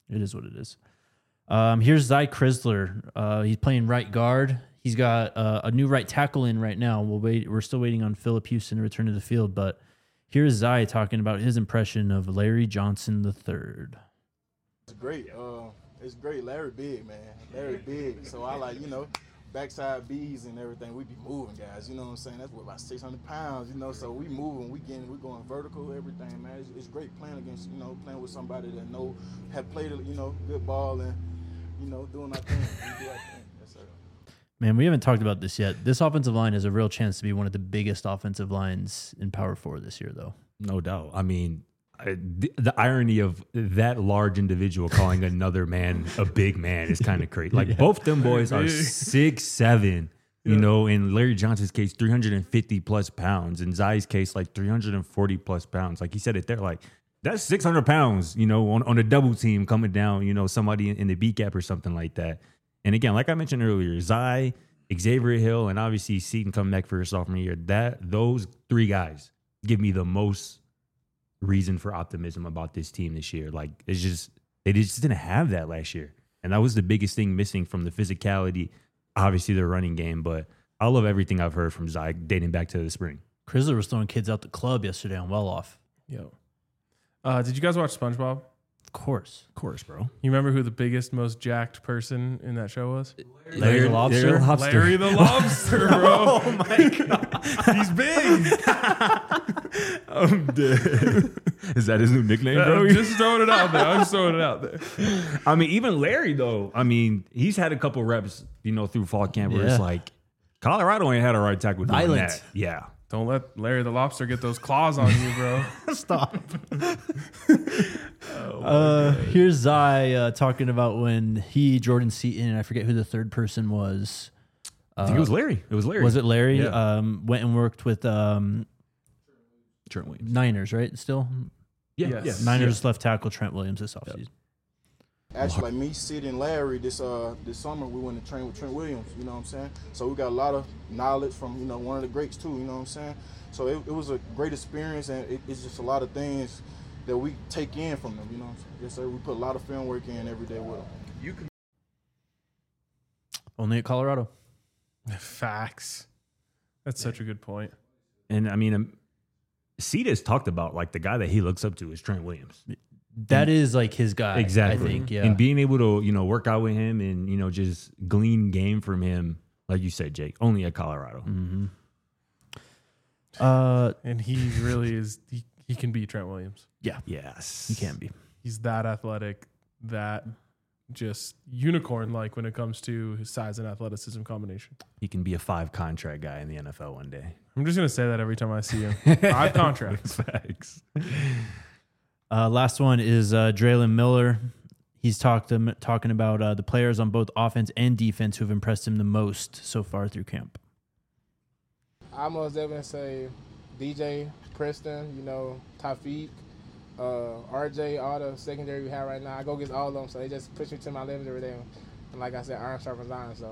It is what it is. Here's Zy Chrysler. He's playing right guard. He's got a new right tackle in right now. We're still waiting on Phillip Houston to return to the field, but here's Zy talking about his impression of Larry Johnson III. It's great. It's great. Larry big, man. Larry big. So I like, backside B's and everything. We be moving, guys. You know what I'm saying? That's what, about 600 pounds, so we moving, we're going vertical, everything, man. It's great playing against, playing with somebody that have played, good ball and, doing our thing. We do our thing. Yes, sir. Man, we haven't talked about this yet. This offensive line has a real chance to be one of the biggest offensive lines in Power 4 this year, though. No doubt. I mean, the irony of that large individual calling another man a big man is kind of crazy. Like both them boys are 6'7", in Larry Johnson's case, 350 plus pounds. In Zy's case, like 340 plus pounds. Like he said it there, like that's 600 pounds, on a double team coming down, somebody in the B gap or something like that. And again, like I mentioned earlier, Zy, Xavier Hill, and obviously Seaton coming back for his sophomore year, those three guys give me the most reason for optimism about this team this year. Like they just didn't have that last year. And that was the biggest thing missing from the physicality, obviously the running game. But I love everything I've heard from Zy dating back to the spring. Chrysler was throwing kids out the club yesterday on Well Off. Yo. Did you guys watch SpongeBob? Of course, bro. You remember who the biggest, most jacked person in that show was? Larry the Lobster. Larry the Lobster, bro. Oh my God. He's big. I'm dead. Is that his new nickname, bro? I'm just throwing it out there. I'm just throwing it out there. I mean, even Larry, though, he's had a couple reps, through fall camp where it's like, Colorado ain't had a right tackle doing Violent. that. Yeah. Don't let Larry the Lobster get those claws on you, bro. Stop. Here's Zy talking about when Jordan Seaton, and I forget who the third person was. I think it was Larry. Was it Larry? Yeah. Went and worked with Trent Williams. Niners, right? Still? Yeah. Yes. Yeah. Niners left tackle Trent Williams this offseason. Actually, like me, Sid, and Larry, this summer we went to train with Trent Williams. You know what I'm saying? So we got a lot of knowledge from one of the greats too. You know what I'm saying? So it was a great experience, and it's just a lot of things that we take in from them. You know what I'm saying? Yes, sir. We put a lot of film work in every day with them. Only at Colorado. Facts. That's such a good point. And Seed has talked about like the guy that he looks up to is Trent Williams. That is like his guy. Exactly. I think, yeah. And being able to, work out with him and, just glean game from him, like you said, Jake, only at Colorado. Mm-hmm. And he really is, he can beat Trent Williams. Yeah. Yes. He can be. He's that athletic, that just unicorn-like when it comes to his size and athleticism combination. He can be a 5 contract guy in the NFL one day. I'm just going to say that every time I see him. 5 contracts. Facts. Last one is Draylon Miller. He's talking about the players on both offense and defense who have impressed him the most so far through camp. I most definitely say DJ, Preston, Tafiq, RJ, all the secondary we have right now. I go against all of them, so they just push me to my limit every day. And like I said, iron sharpens iron. So,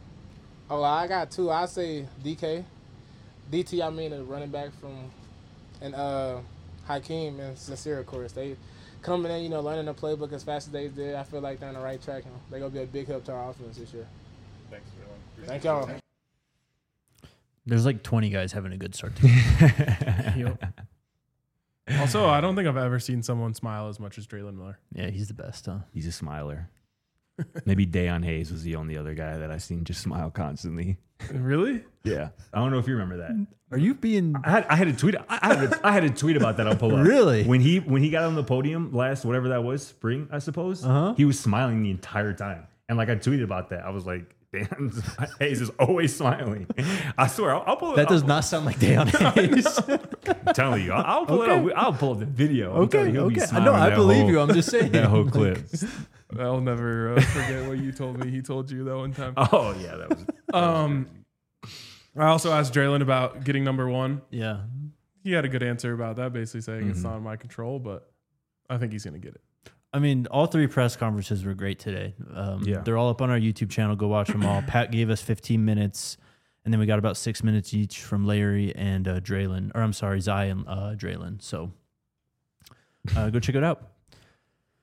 I got 2. I say DK, DT. I mean, the running back and Hakeem and Sincere, of course. They coming in, learning the playbook as fast as they did. I feel like they're on the right track. They're going to be a big help to our offense this year. Thanks, everyone. Thank y'all. There's like 20 guys having a good start to the game. Also, I don't think I've ever seen someone smile as much as Draylon Miller. Yeah, he's the best, huh? He's a smiler. Maybe Deion Hayes was the only other guy that I've seen just smile constantly. Really? Yeah. I don't know if you remember that. Are you being... I had a tweet. I had a tweet about that. I'll pull up. Really? When he got on the podium last, whatever that was, spring, I suppose, he was smiling the entire time. And like I tweeted about that. I was like, damn, Hayes is always smiling. I swear, I'll pull it up. That does not sound like Deion Hayes. I'm telling you, I'll pull it up. I'll pull up the video. I'm telling you, he'll be smiling I believe whole- you. I'm just saying. That whole clip. I'll never forget what you told me. He told you that one time. Oh, yeah. That was I also asked Draylon about getting number 1. Yeah. He had a good answer about that, basically saying it's not in my control, but I think he's going to get it. I mean, all 3 press conferences were great today. They're all up on our YouTube channel. Go watch them all. Pat gave us 15 minutes, and then we got about 6 minutes each from Larry and Draylon. Or I'm sorry, Zy and Draylon. So go check it out.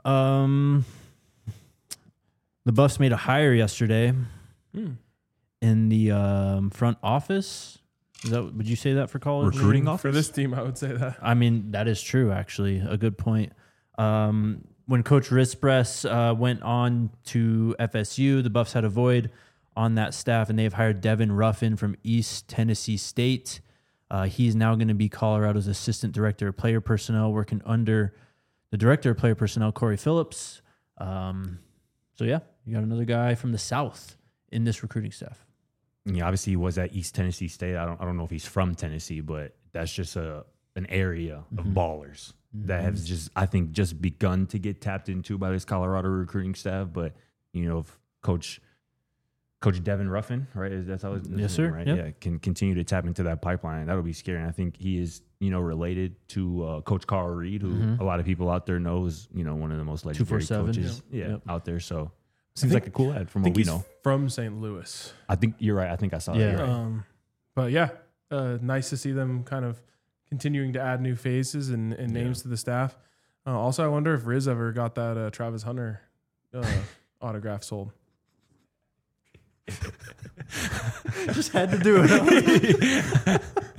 The Buffs made a hire yesterday in the front office. Would you say that for college? Recruiting For office? this team, I would say that. I mean, that is true, actually. A good point. When Coach Rispress went on to FSU, the Buffs had a void on that staff, and they have hired Devin Ruffin from East Tennessee State. He's now going to be Colorado's assistant director of player personnel, working under the director of player personnel, Corey Phillips. So, yeah, you got another guy from the South in this recruiting staff. Yeah, obviously he was at East Tennessee State. I don't know if he's from Tennessee, but that's just an area of ballers that have just begun to get tapped into by this Colorado recruiting staff. But if Coach Devin Ruffin, right? That's how his name, Yes, sir. right? Yep. Yeah, can continue to tap into that pipeline. That'll be scary. And I think he is, related to Coach Carl Reed, who a lot of people out there know is, one of the most legendary 247. coaches Yep. out there. So seems like a cool ad from I what think we he's know. from St. Louis. I think you're right. I think I saw Yeah. that. You're right. But yeah, nice to see them kind of continuing to add new faces and names to the staff. Also, I wonder if Riz ever got that Travis Hunter autograph sold. Just had to do it.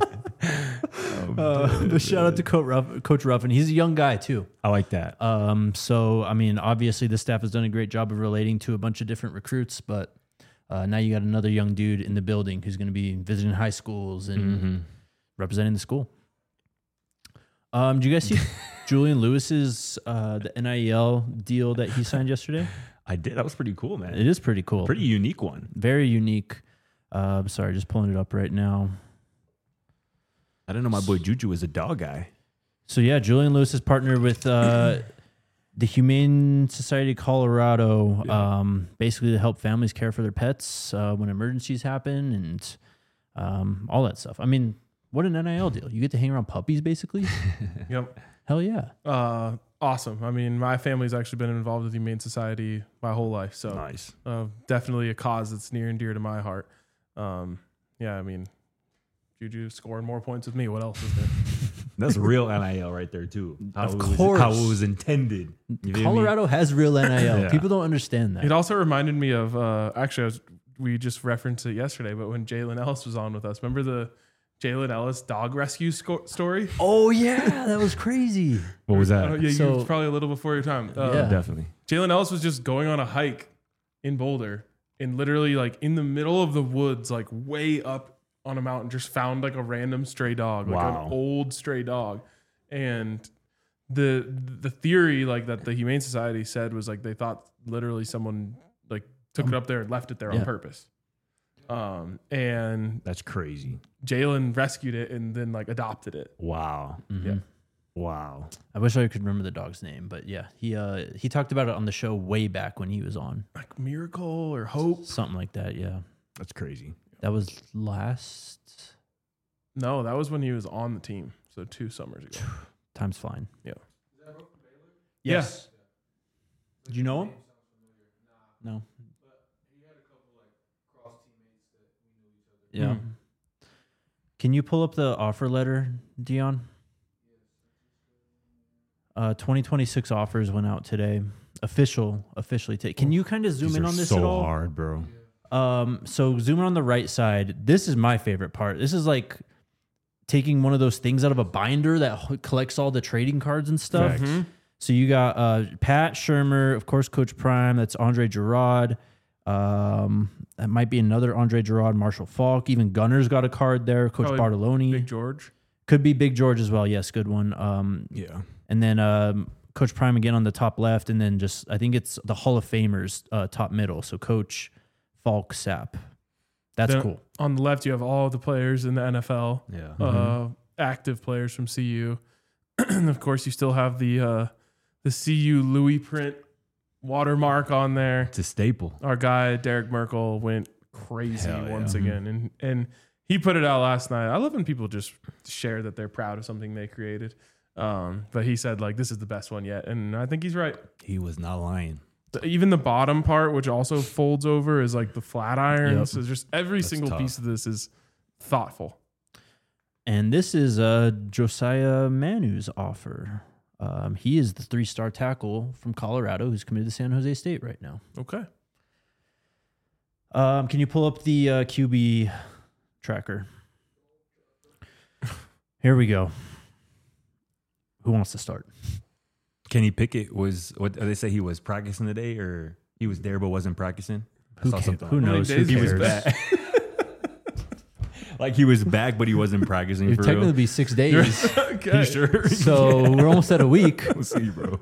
But shout out to Coach Ruffin. He's a young guy, too. I like that. So, I mean, obviously the staff has done a great job of relating to a bunch of different recruits, but now you got another young dude in the building who's going to be visiting high schools and representing the school. Did you guys see Julian Lewis's the NIL deal that he signed yesterday? I did. That was pretty cool, man. It is pretty cool. Pretty unique one. Very unique. Sorry, just pulling it up right now. I didn't know my boy Juju was a dog guy. So yeah, Julian Lewis is partnered with the Humane Society of Colorado, basically to help families care for their pets when emergencies happen and all that stuff. I mean, what an NIL deal! You get to hang around puppies, basically. Yep. Hell yeah! Awesome. I mean, my family's actually been involved with the Humane Society my whole life. So Nice. definitely a cause that's near and dear to my heart. Yeah, I mean, Juju scoring more points with me. What else is there? That's real NIL right there too. Of How course. it was intended. You feel me? Colorado has real NIL. Yeah. People don't understand that. It also reminded me of we just referenced it yesterday, but when Jalen Ellis was on with us, remember the Jalen Ellis dog rescue story? Oh yeah, that was crazy. What was that? Yeah, you So- was probably a little before your time. Yeah. Definitely. Jalen Ellis was just going on a hike in Boulder and literally like in the middle of the woods, like way up on a mountain, just found like a random stray dog, like Wow. an old stray dog. And the theory like that the Humane Society said was like they thought literally someone like took it up there and left it there on Yeah. purpose. And That's crazy. Jalen rescued it and then like adopted it. Wow. Yeah. Wow. I wish I could remember the dog's name, but yeah, he talked about it on the show way back when he was on, Like miracle or hope. something like that. Yeah, That's crazy. that was last. No, that was when he was on the team. So 2 summers ago. Time's flying. Yeah. Yes. Did you know him? No. Yeah. Can you pull up the offer letter, Dion? 2026 offers went out today. Officially. Can you kind of zoom These in are on this so at all? hard, bro. So zoom in on the right side. This is my favorite part. This is like taking one of those things out of a binder that collects all the trading cards and stuff. Facts. So you got Pat Shermer, of course, Coach Prime. That's Andre Girard. That might be another Andre Girard, Marshall Falk. Even Gunner's got a card there. Coach Probably Bartoloni. Big George. Could be Big George as well. Yes, good one. Yeah. And then Coach Prime again on the top left. And then just, I think it's the Hall of Famers top middle. So Coach Falk Sapp. That's Then cool. On the left, you have all the players in the NFL, Yeah. active players from CU. And of course, you still have the CU Louis print watermark on there. It's a staple. Our guy Derek Merkel went crazy Hell yeah. once again, and he put it out last night. I love when people just share that they're proud of something they created. But he said like this is the best one yet, and I think he's right. He was not lying. Even the bottom part, which also folds over, is like the flat iron. Yep. So just every single tough. piece of this is thoughtful. And this is Josiah Manu's offer. He is the 3-star tackle from Colorado who's committed to San Jose State right now. Okay. Can you pull up the QB tracker? Here we go. Who wants to start? Kenny Pickett was, what they say, he was practicing today, or he was there but wasn't practicing? Who knows? days Who he was cares? back? Like he was back, but he wasn't practicing It'd for technically real. be 6 days. Okay. You sure? So we're almost at a week. We'll see, bro.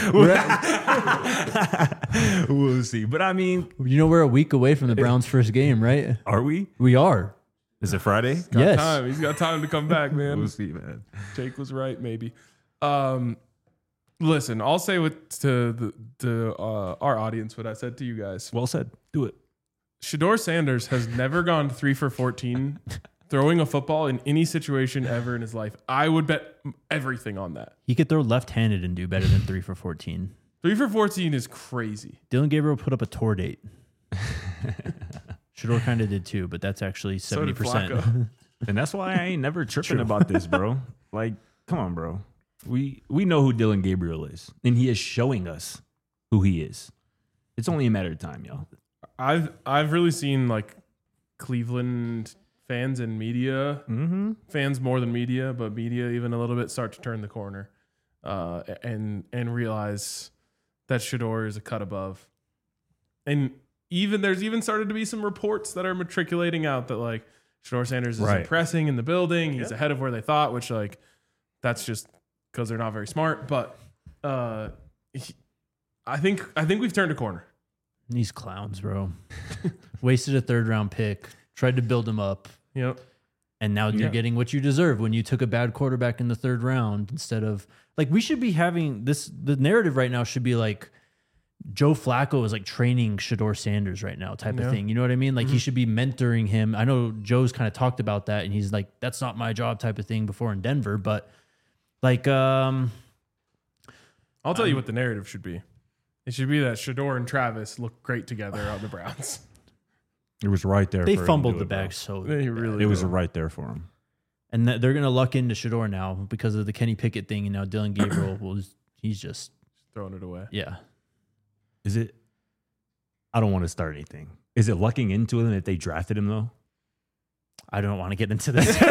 We'll see. But I mean, You know, we're a week away from the Browns' first game, right? are we? We are. Is it Friday? Yes. Time. He's got time to come back, man. We'll see, man. Jake was right, maybe. Listen, I'll say to our audience what I said to you guys. Well said. Do it. Shador Sanders has never gone 3 for 14 throwing a football in any situation ever in his life. I would bet everything on that. He could throw left-handed and do better than 3 for 14. 3 for 14 is crazy. Dylan Gabriel put up a tour date. Shador kind of did too, but that's actually So did 70%. Flacco. And that's why I ain't never tripping about this, bro. Like, come on, bro. We know who Dylan Gabriel is, and he is showing us who he is. It's only a matter of time, y'all. I've really seen like Cleveland fans and media, fans more than media, but media even a little bit, start to turn the corner and realize that Shador is a cut above. And there's even started to be some reports that are matriculating out that like Shador Sanders is Right. impressing in the building. He's ahead of where they thought, which like that's just because they're not very smart. But I think we've turned a corner. These clowns, bro. Wasted a 3rd-round pick, tried to build him up, Yep. and now you're Yeah. getting what you deserve when you took a bad quarterback in the 3rd round instead of like we should be having this. The narrative right now should be like Joe Flacco is like training Shador Sanders right now type of thing. You know what I mean? Like he should be mentoring him. I know Joe's kind of talked about that and he's like, that's not my job type of thing before in Denver. But like, I'll tell you what the narrative should be. It should be that Shador and Travis look great together on the Browns. It was right there. they for him to fumbled do the it, bro. bag so They really It was do. right there for him. and they're going to luck into Shador now because of the Kenny Pickett thing. And now Dylan Gabriel he's just, throwing it away. yeah. Is it? I don't want to start anything. Is it lucking into him if they drafted him though? I don't want to get into this.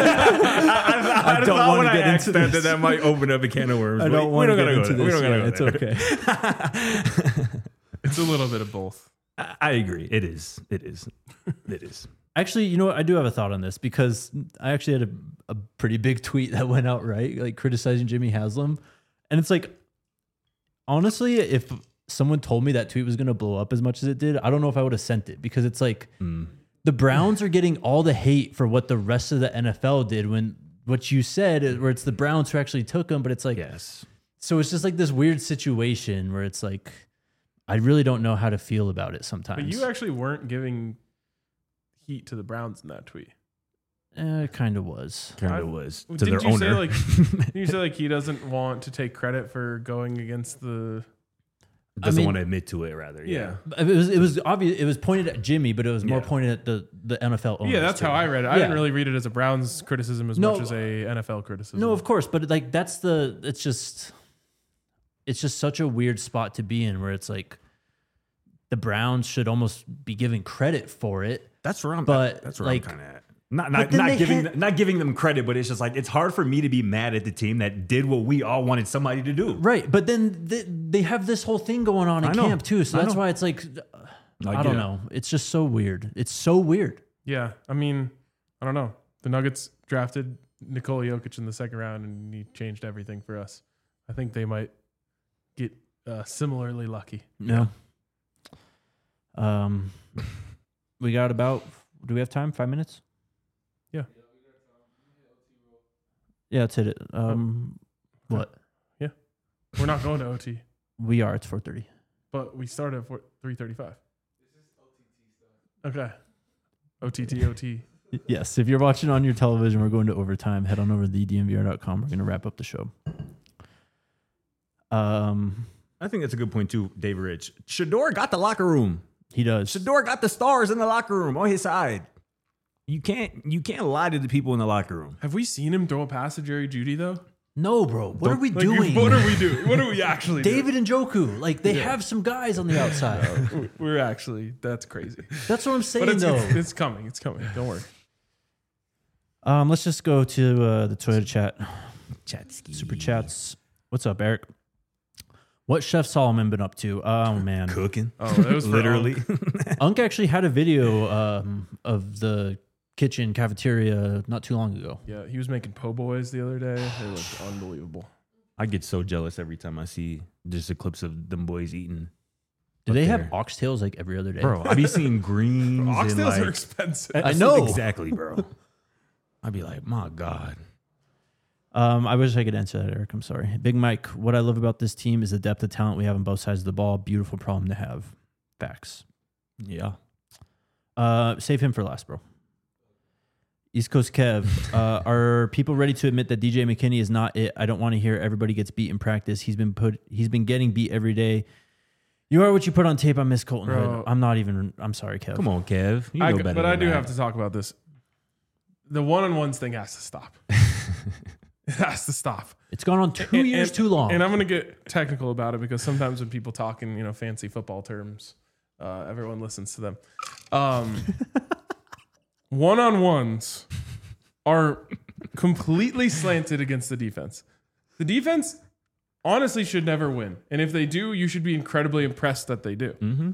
I don't want to get into this. That might open up a can of worms. I don't want to get into this. We don't gotta Yeah, it's go there. okay. It's a little bit of both. I agree. It is. Actually, you know what? I do have a thought on this because I actually had a pretty big tweet that went out, right? Like criticizing Jimmy Haslam. And it's like, honestly, if someone told me that tweet was going to blow up as much as it did, I don't know if I would have sent it because it's like the Browns are getting all the hate for what the rest of the NFL did when what you said, where it's the Browns who actually took them. But it's like, Yes. so it's just like this weird situation where it's like, I really don't know how to feel about it sometimes. But you actually weren't giving heat to the Browns in that tweet. It kind of was. Kind I- of was to Didn't their you say owner. like didn't you say like he doesn't want to take credit for going against the Doesn't I mean- want to admit to it. Rather, yeah. It was obvious. It was pointed at Jimmy, but it was more Yeah. pointed at the NFL owners. Yeah, that's too. how I read it. I Yeah. didn't really read it as a Browns criticism as No, much as a NFL criticism. No, of course, but like it's just such a weird spot to be in where it's like the Browns should almost be giving credit for it. That's where I'm. But, that's where like- I'm kind of at. Not But then they not giving them credit, but it's just like it's hard for me to be mad at the team that did what we all wanted somebody to do. Right, but then they have this whole thing going on in I know. camp too, so I that's know. why it's like I get don't it. know. It's just so weird. It's so weird. Yeah, I mean, I don't know. The Nuggets drafted Nikola Jokic in the 2nd round, and he changed everything for us. I think they might get similarly lucky. No. We got about. Do we have time? 5 minutes? Yeah. Yeah, let's hit it. What? We're not going to OT, We are. It's 4:30. but we start at 3:35. Okay. OT. Yes. If you're watching on your television, we're going to overtime. Head on over to thedmvr.com. We're going to wrap up the show. I think that's a good point too, David Rich. Shador got the locker room. He does. Shador got the stars in the locker room on his side. You can't lie to the people in the locker room. Have we seen him throw a pass to Jerry Jeudy though? No, bro. What are we Like, doing? what are we doing? What are we actually doing? David Njoku, like they have some guys on the outside. We're actually, that's crazy. That's what I'm saying, But though. it's coming. It's coming. Don't worry. Let's just go to the Toyota chat. Super chats. What's up, Eric? What Chef Solomon been up to? Oh, man. Cooking. Oh, that was for Literally. Unc. Unc actually had a video of the kitchen cafeteria not too long ago. Yeah, he was making po' boys the other day. They looked unbelievable. I get so jealous every time I see just the clips of them boys eating. Do up they there. have oxtails like every other day? Bro, I be seeing greens. Oxtails and like, are expensive. I know. Exactly, bro. I'd be like, my God. I wish I could answer that, Eric. I'm sorry. Big Mike, what I love about this team is the depth of talent we have on both sides of the ball. Beautiful problem to have. Facts. Yeah. Save him for last, bro. East Coast Kev, are people ready to admit that DJ McKinney is not it? I don't want to hear everybody gets beat in practice. He's been getting beat every day. You are what you put on tape. I miss Colton Bro. Hood. I'm sorry, Kev. Come on, Kev. You know better But I than do that. have to talk about this. The one-on-ones thing has to stop. It has to stop. It's gone on 2 years too long. And I'm going to get technical about it because sometimes when people talk in fancy football terms, everyone listens to them. One-on-ones are completely slanted against the defense. The defense honestly should never win. And if they do, you should be incredibly impressed that they do. Mm-hmm.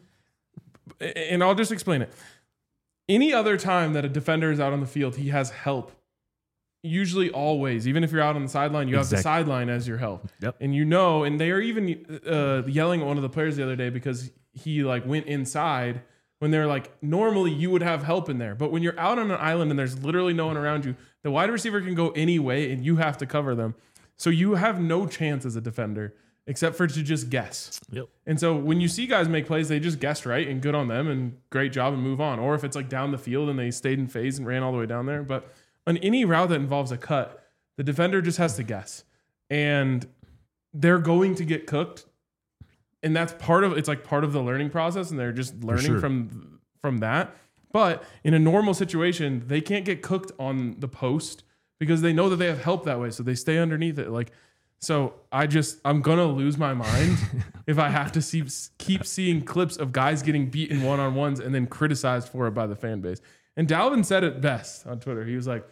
And I'll just explain it. Any other time that a defender is out on the field, he has help. Usually, always. Even if you're out on the sideline, you have the sideline as your help. Yep. And and they are even yelling at one of the players the other day because he went inside when they're normally you would have help in there. But when you're out on an island and there's literally no one around you, the wide receiver can go any way and you have to cover them. So you have no chance as a defender except for to just guess. Yep. And so when you see guys make plays, they just guessed right and good on them and great job and move on. Or if it's down the field and they stayed in phase and ran all the way down there. But on any route that involves a cut, the defender just has to guess. And they're going to get cooked. And that's part of the learning process. And they're just learning from that. But in a normal situation, they can't get cooked on the post because they know that they have help that way. So they stay underneath it. So I'm going to lose my mind if I have to keep seeing clips of guys getting beaten one-on-ones and then criticized for it by the fan base. And Dalvin said it best on Twitter. He was like,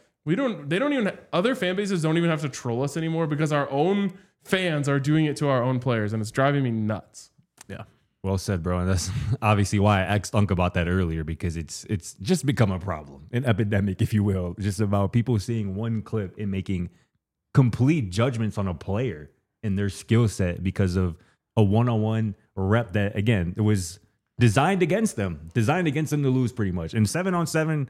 other fan bases don't even have to troll us anymore because our own fans are doing it to our own players and it's driving me nuts. Yeah. Well said, bro. And that's obviously why I asked Unc about that earlier, because it's just become a problem, an epidemic, if you will, just about people seeing one clip and making complete judgments on a player and their skill set because of a one-on-one rep that, again, it was designed against them to lose pretty much. And 7-on-7,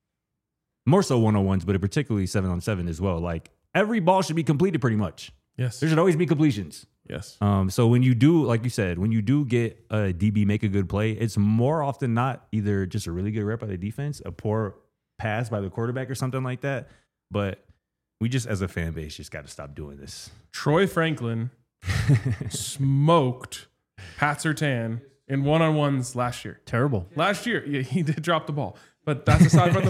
more so one-on-ones, but particularly 7-on-7 as well. Every ball should be completed pretty much. Yes. There should always be completions. Yes. So when you do, like you said, when you do get a DB make a good play, it's more often not either just a really good rep by the defense, a poor pass by the quarterback or something like that. But we just, as a fan base, just got to stop doing this. Troy Franklin smoked Pat Surtain in one-on-ones last year. Terrible. Last year, yeah, he did drop the ball, but that's aside from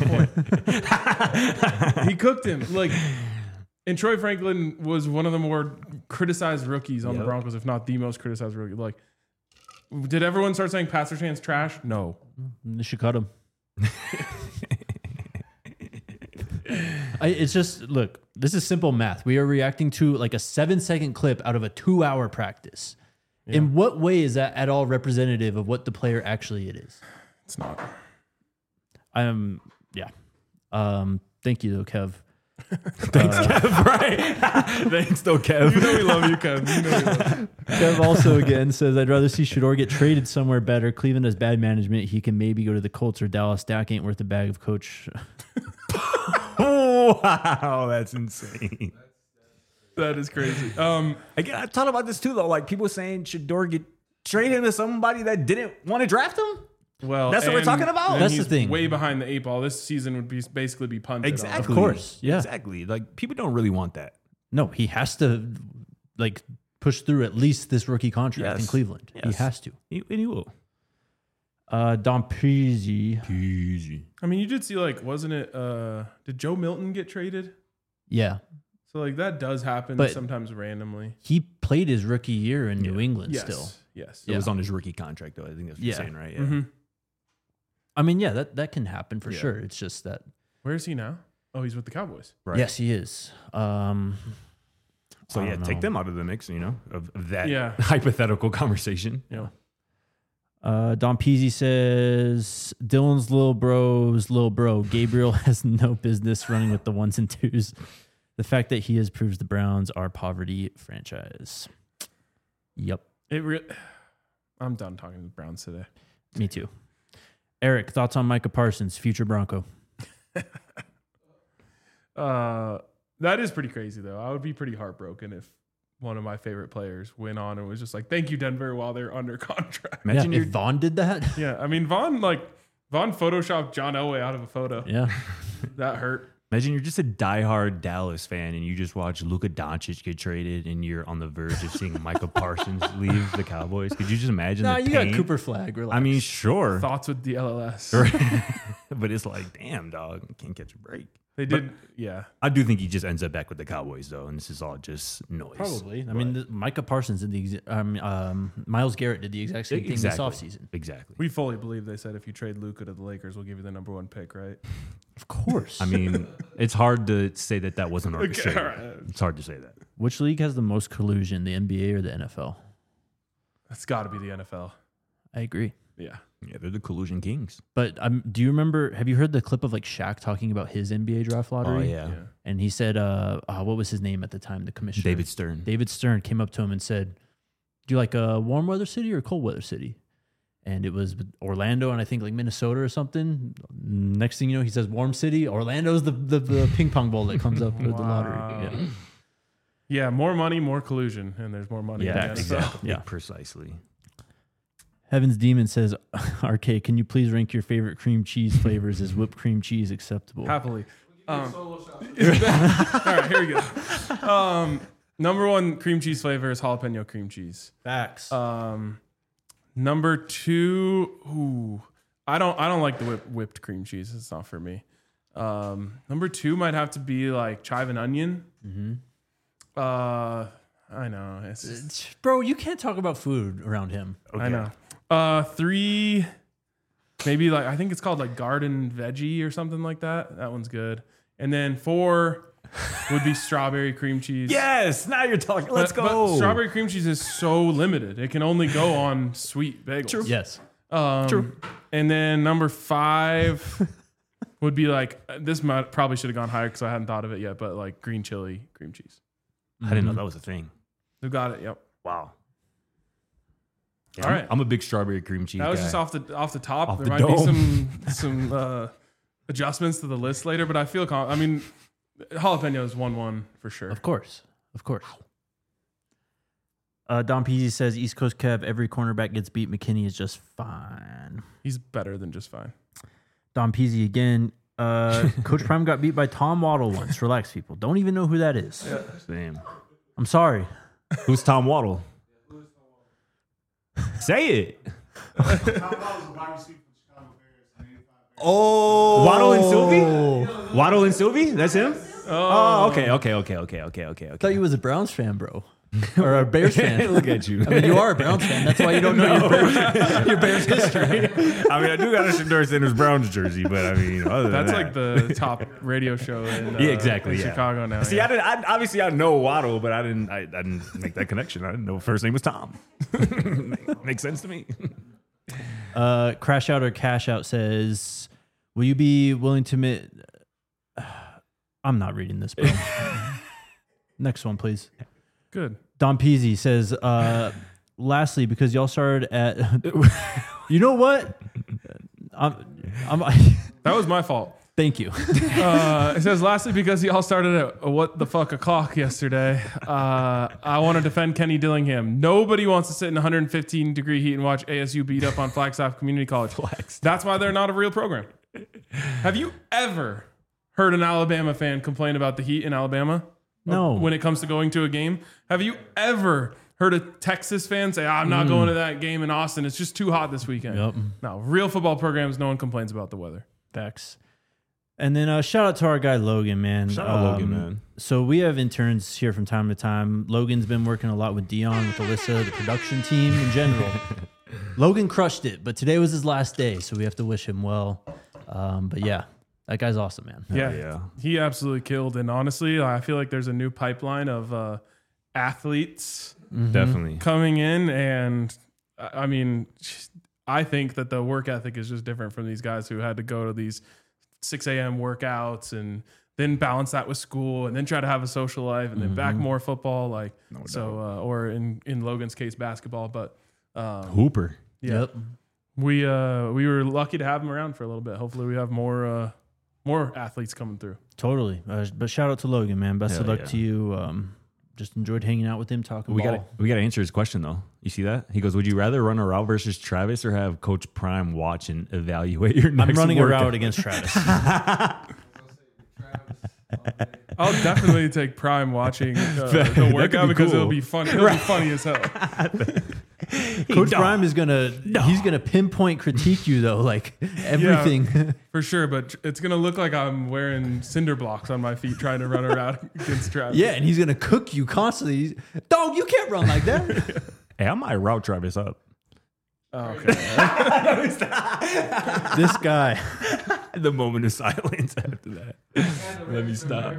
the point. He cooked him. And Troy Franklin was one of the more criticized rookies on the Broncos, if not the most criticized rookie. Did everyone start saying Pat Surtain's trash? No. They should cut him. It's just, look, this is simple math. We are reacting to a 7-second clip out of a 2-hour practice. Yeah. In what way is that at all representative of what the player actually it is? It's not. Yeah. Thank you, though, Kev. Thanks, Kev. Right? Thanks, though, Kev. You know we love you, Kev. You know we love you. Kev also again says, I'd rather see Shedeur get traded somewhere better. Cleveland has bad management. He can maybe go to the Colts or Dallas. Dak ain't worth a bag of coach. Wow, that's insane. That is crazy. Again, I thought about this too, though. People saying Shedeur get traded to somebody that didn't want to draft him. Well, that's what we're talking about. And That's he's the thing. Way behind the 8 ball. This season would basically be punted. Exactly. Of course. Yeah. Exactly. People don't really want that. No, he has to push through at least this rookie contract in Cleveland. Yes. He has to. And he will. Don Pizzi. Easy. I mean, you did see wasn't it? Did Joe Milton get traded? Yeah. So like that does happen But- sometimes randomly. He played his rookie year in New England Yes. still. Yes. It was on his rookie contract, though. I think that's what you're Yeah. saying, right? Yeah. Mm-hmm. I mean, yeah, that can happen for Yeah. sure. It's just that. Where is he now? Oh, he's with the Cowboys. Right. Yes, he is. So I yeah, don't take know. them out of the mix, of that Yeah. hypothetical conversation. Yeah. Don Peasy says Dylan's little bro. Gabriel has no business running with the ones and twos. The fact that he has proves the Browns are poverty franchise. Yep, I'm done talking to the Browns today. me too. Eric, thoughts on Micah Parsons, future Bronco? That is pretty crazy though. I would be pretty heartbroken if one of my favorite players went on and was just like, "Thank you, Denver," while they're under contract. Imagine If Vaughn did that. Yeah, I mean Vaughn photoshopped John Elway out of a photo. Yeah, That hurt. Imagine you're just a diehard Dallas fan and you just watch Luka Doncic get traded and you're on the verge of seeing Micah Parsons leave the Cowboys. Could you just imagine nah, the you pain? got Cooper Flag. Relax. I mean, sure. Thoughts with the LLS. But it's like, damn, dog, can't catch a break. They did. Yeah. I do think he just ends up back with the Cowboys, though, and this is all just noise. probably. I mean, Micah Parsons did the Miles Garrett did the exact same thing this offseason. Exactly. We fully believe they said if you trade Luka to the Lakers, we'll give you the number 1 pick, right? Of course. I mean, it's hard to say that wasn't orchestrated. all right. It's hard to say that. Which league has the most collusion, the NBA or the NFL? That's got to be the NFL. I agree. Yeah. Yeah, they're the collusion kings. But do you remember? Have you heard the clip of like Shaq talking about his NBA draft lottery? Oh, yeah. And he said, what was his name at the time? The commissioner, David Stern. David Stern came up to him and said, "Do you like a warm weather city or a cold weather city?" And it was Orlando and I think like Minnesota or something. Next thing you know, he says warm city. Orlando's the ping pong ball that comes up with the lottery. Yeah. Yeah, more money, more collusion, and there's more money. Yeah, in the NFL. exactly. Yeah. Precisely. Heaven's Demon says, RK, can you please rank your favorite cream cheese flavors? Is whipped cream cheese acceptable? Happily. All right, here we go. Number 1 cream cheese flavor is jalapeno cream cheese. Facts. Number 2, I don't like the whipped cream cheese. It's not for me. Number 2 might have to be like chive and onion. Mm-hmm. I know. It's just, Bro, you can't talk about food around him. I know. 3, maybe like I think it's called like garden veggie or something like that. That one's good. And then 4 would be strawberry cream cheese. Yes, now you're talking. Let's But go. strawberry cream cheese is so limited; it can only go on sweet bagels. Yes. True. And then number 5 would be like this. Probably should have gone higher because I hadn't thought of it yet. But like green chili cream cheese. I didn't know that was a thing. You got it. Yep. Wow. Yeah, All right. I'm a big strawberry cream cheese That was guy. just off the top. Off there the might dome. be some adjustments to the list later, but I feel I mean, jalapeno is 1-1 for sure. Of course. Don Peasy says, East Coast Kev, every cornerback gets beat. McKinney is just fine. He's better than just fine. Don Peasy again. Coach Prime got beat by Tom Waddle once. Relax, people. Don't even know who that is. Damn. I'm sorry. Who's Tom Waddle? Say it. Oh. Waddle and Sylvie? Waddle and Sylvie? That's him? Oh, okay. I thought you was a Browns fan, bro. Or a Bears fan. Look at you. I mean, you are a Browns fan. That's why you don't know your Bears history. I mean, I do got a Shador Sanders Browns jersey, but I mean, other than That's that. like the top radio show in, Yeah, exactly, in yeah. Chicago now. See, yeah. obviously I know Waddle, but I didn't make that connection. I didn't know first name was Tom. Makes sense to me. Crash Out or Cash Out says, will you be willing to admit... I'm not reading this, bro. Next one, please. Good. Don Peasy says, lastly, because y'all started at... You know what? That was my fault. Thank you. It says, lastly, because y'all started at what the fuck o'clock yesterday, I want to defend Kenny Dillingham. Nobody wants to sit in 115 degree heat and watch ASU beat up on Flagstaff Community College. That's why they're not a real program. Have you ever heard an Alabama fan complain about the heat in Alabama? No. When it comes to going to a game? Have you ever heard a Texas fan say, I'm not going to that game in Austin. It's just too hot this weekend. Yep. No, real football programs, no one complains about the weather. Facts. And then shout out to our guy Logan, man. Shout out Logan, man. So we have interns here from time to time. Logan's been working a lot with Dion, with Alyssa, the production team in general. Logan crushed it, but today was his last day, so we have to wish him well. But yeah, that guy's awesome, man. Yeah, he absolutely killed. And honestly, I feel like there's a new pipeline of athletes Definitely coming in. And I mean, I think that the work ethic is just different from these guys who had to go to these 6 a.m. workouts and then balance that with school and then try to have a social life and then back more football. Like, or in Logan's case, basketball. But Hooper. yeah, Yep. we were lucky to have him around for a little bit. Hopefully we have more athletes coming through. Totally. But shout out to Logan, man. Best of Hell luck yeah. to you. Just enjoyed hanging out with him, talking We ball. got to answer his question though. You see that? He goes, "Would you rather run a route versus Travis or have Coach Prime watch and evaluate your next I'm running workout?" a route against Travis. I'll definitely take Prime watching the workout be because cool. it'll be funny. It'll be funny as hell. Coach Prime is he's gonna pinpoint critique you though, like everything. For sure, but it's gonna look like I'm wearing cinder blocks on my feet trying to run around against Travis. Yeah, and he's gonna cook you constantly. Dog, you can't run like that. Hey, I might route Travis up. Oh, okay. This guy. The moment of silence after that. Let me stop.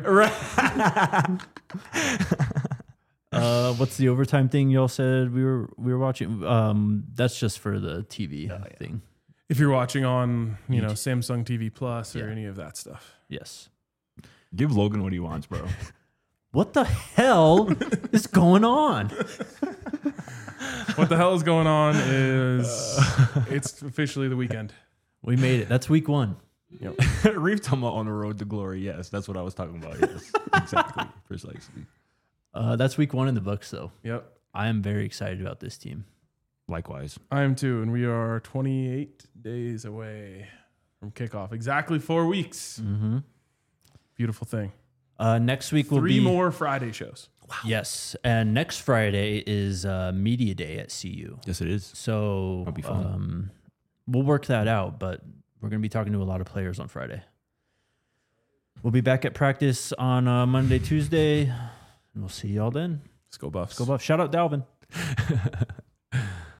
What's the overtime thing y'all said we were watching? That's just for the TV thing. If you're watching on Samsung TV Plus or any of that stuff. Yes. Give Logan what he wants, bro. What the hell is going on? What the hell is going on is it's officially the weekend. We made it. That's week 1. Reef talking about on the road to glory. Yes, that's what I was talking about. Yes, exactly, precisely. That's week 1 in the books, though. Yep. I am very excited about this team. Likewise. I am too, and we are 28 days away from kickoff. Exactly 4 weeks. Mm-hmm. Beautiful thing. Next week will 3 be more Friday shows. Wow. Yes, and next Friday is media day at CU. Yes, it is. So That'll be fun. We'll work that out, but we're going to be talking to a lot of players on Friday. We'll be back at practice on Monday, Tuesday, and we'll see y'all then. Let's go Buffs. Go Buffs. Shout out Dalvin.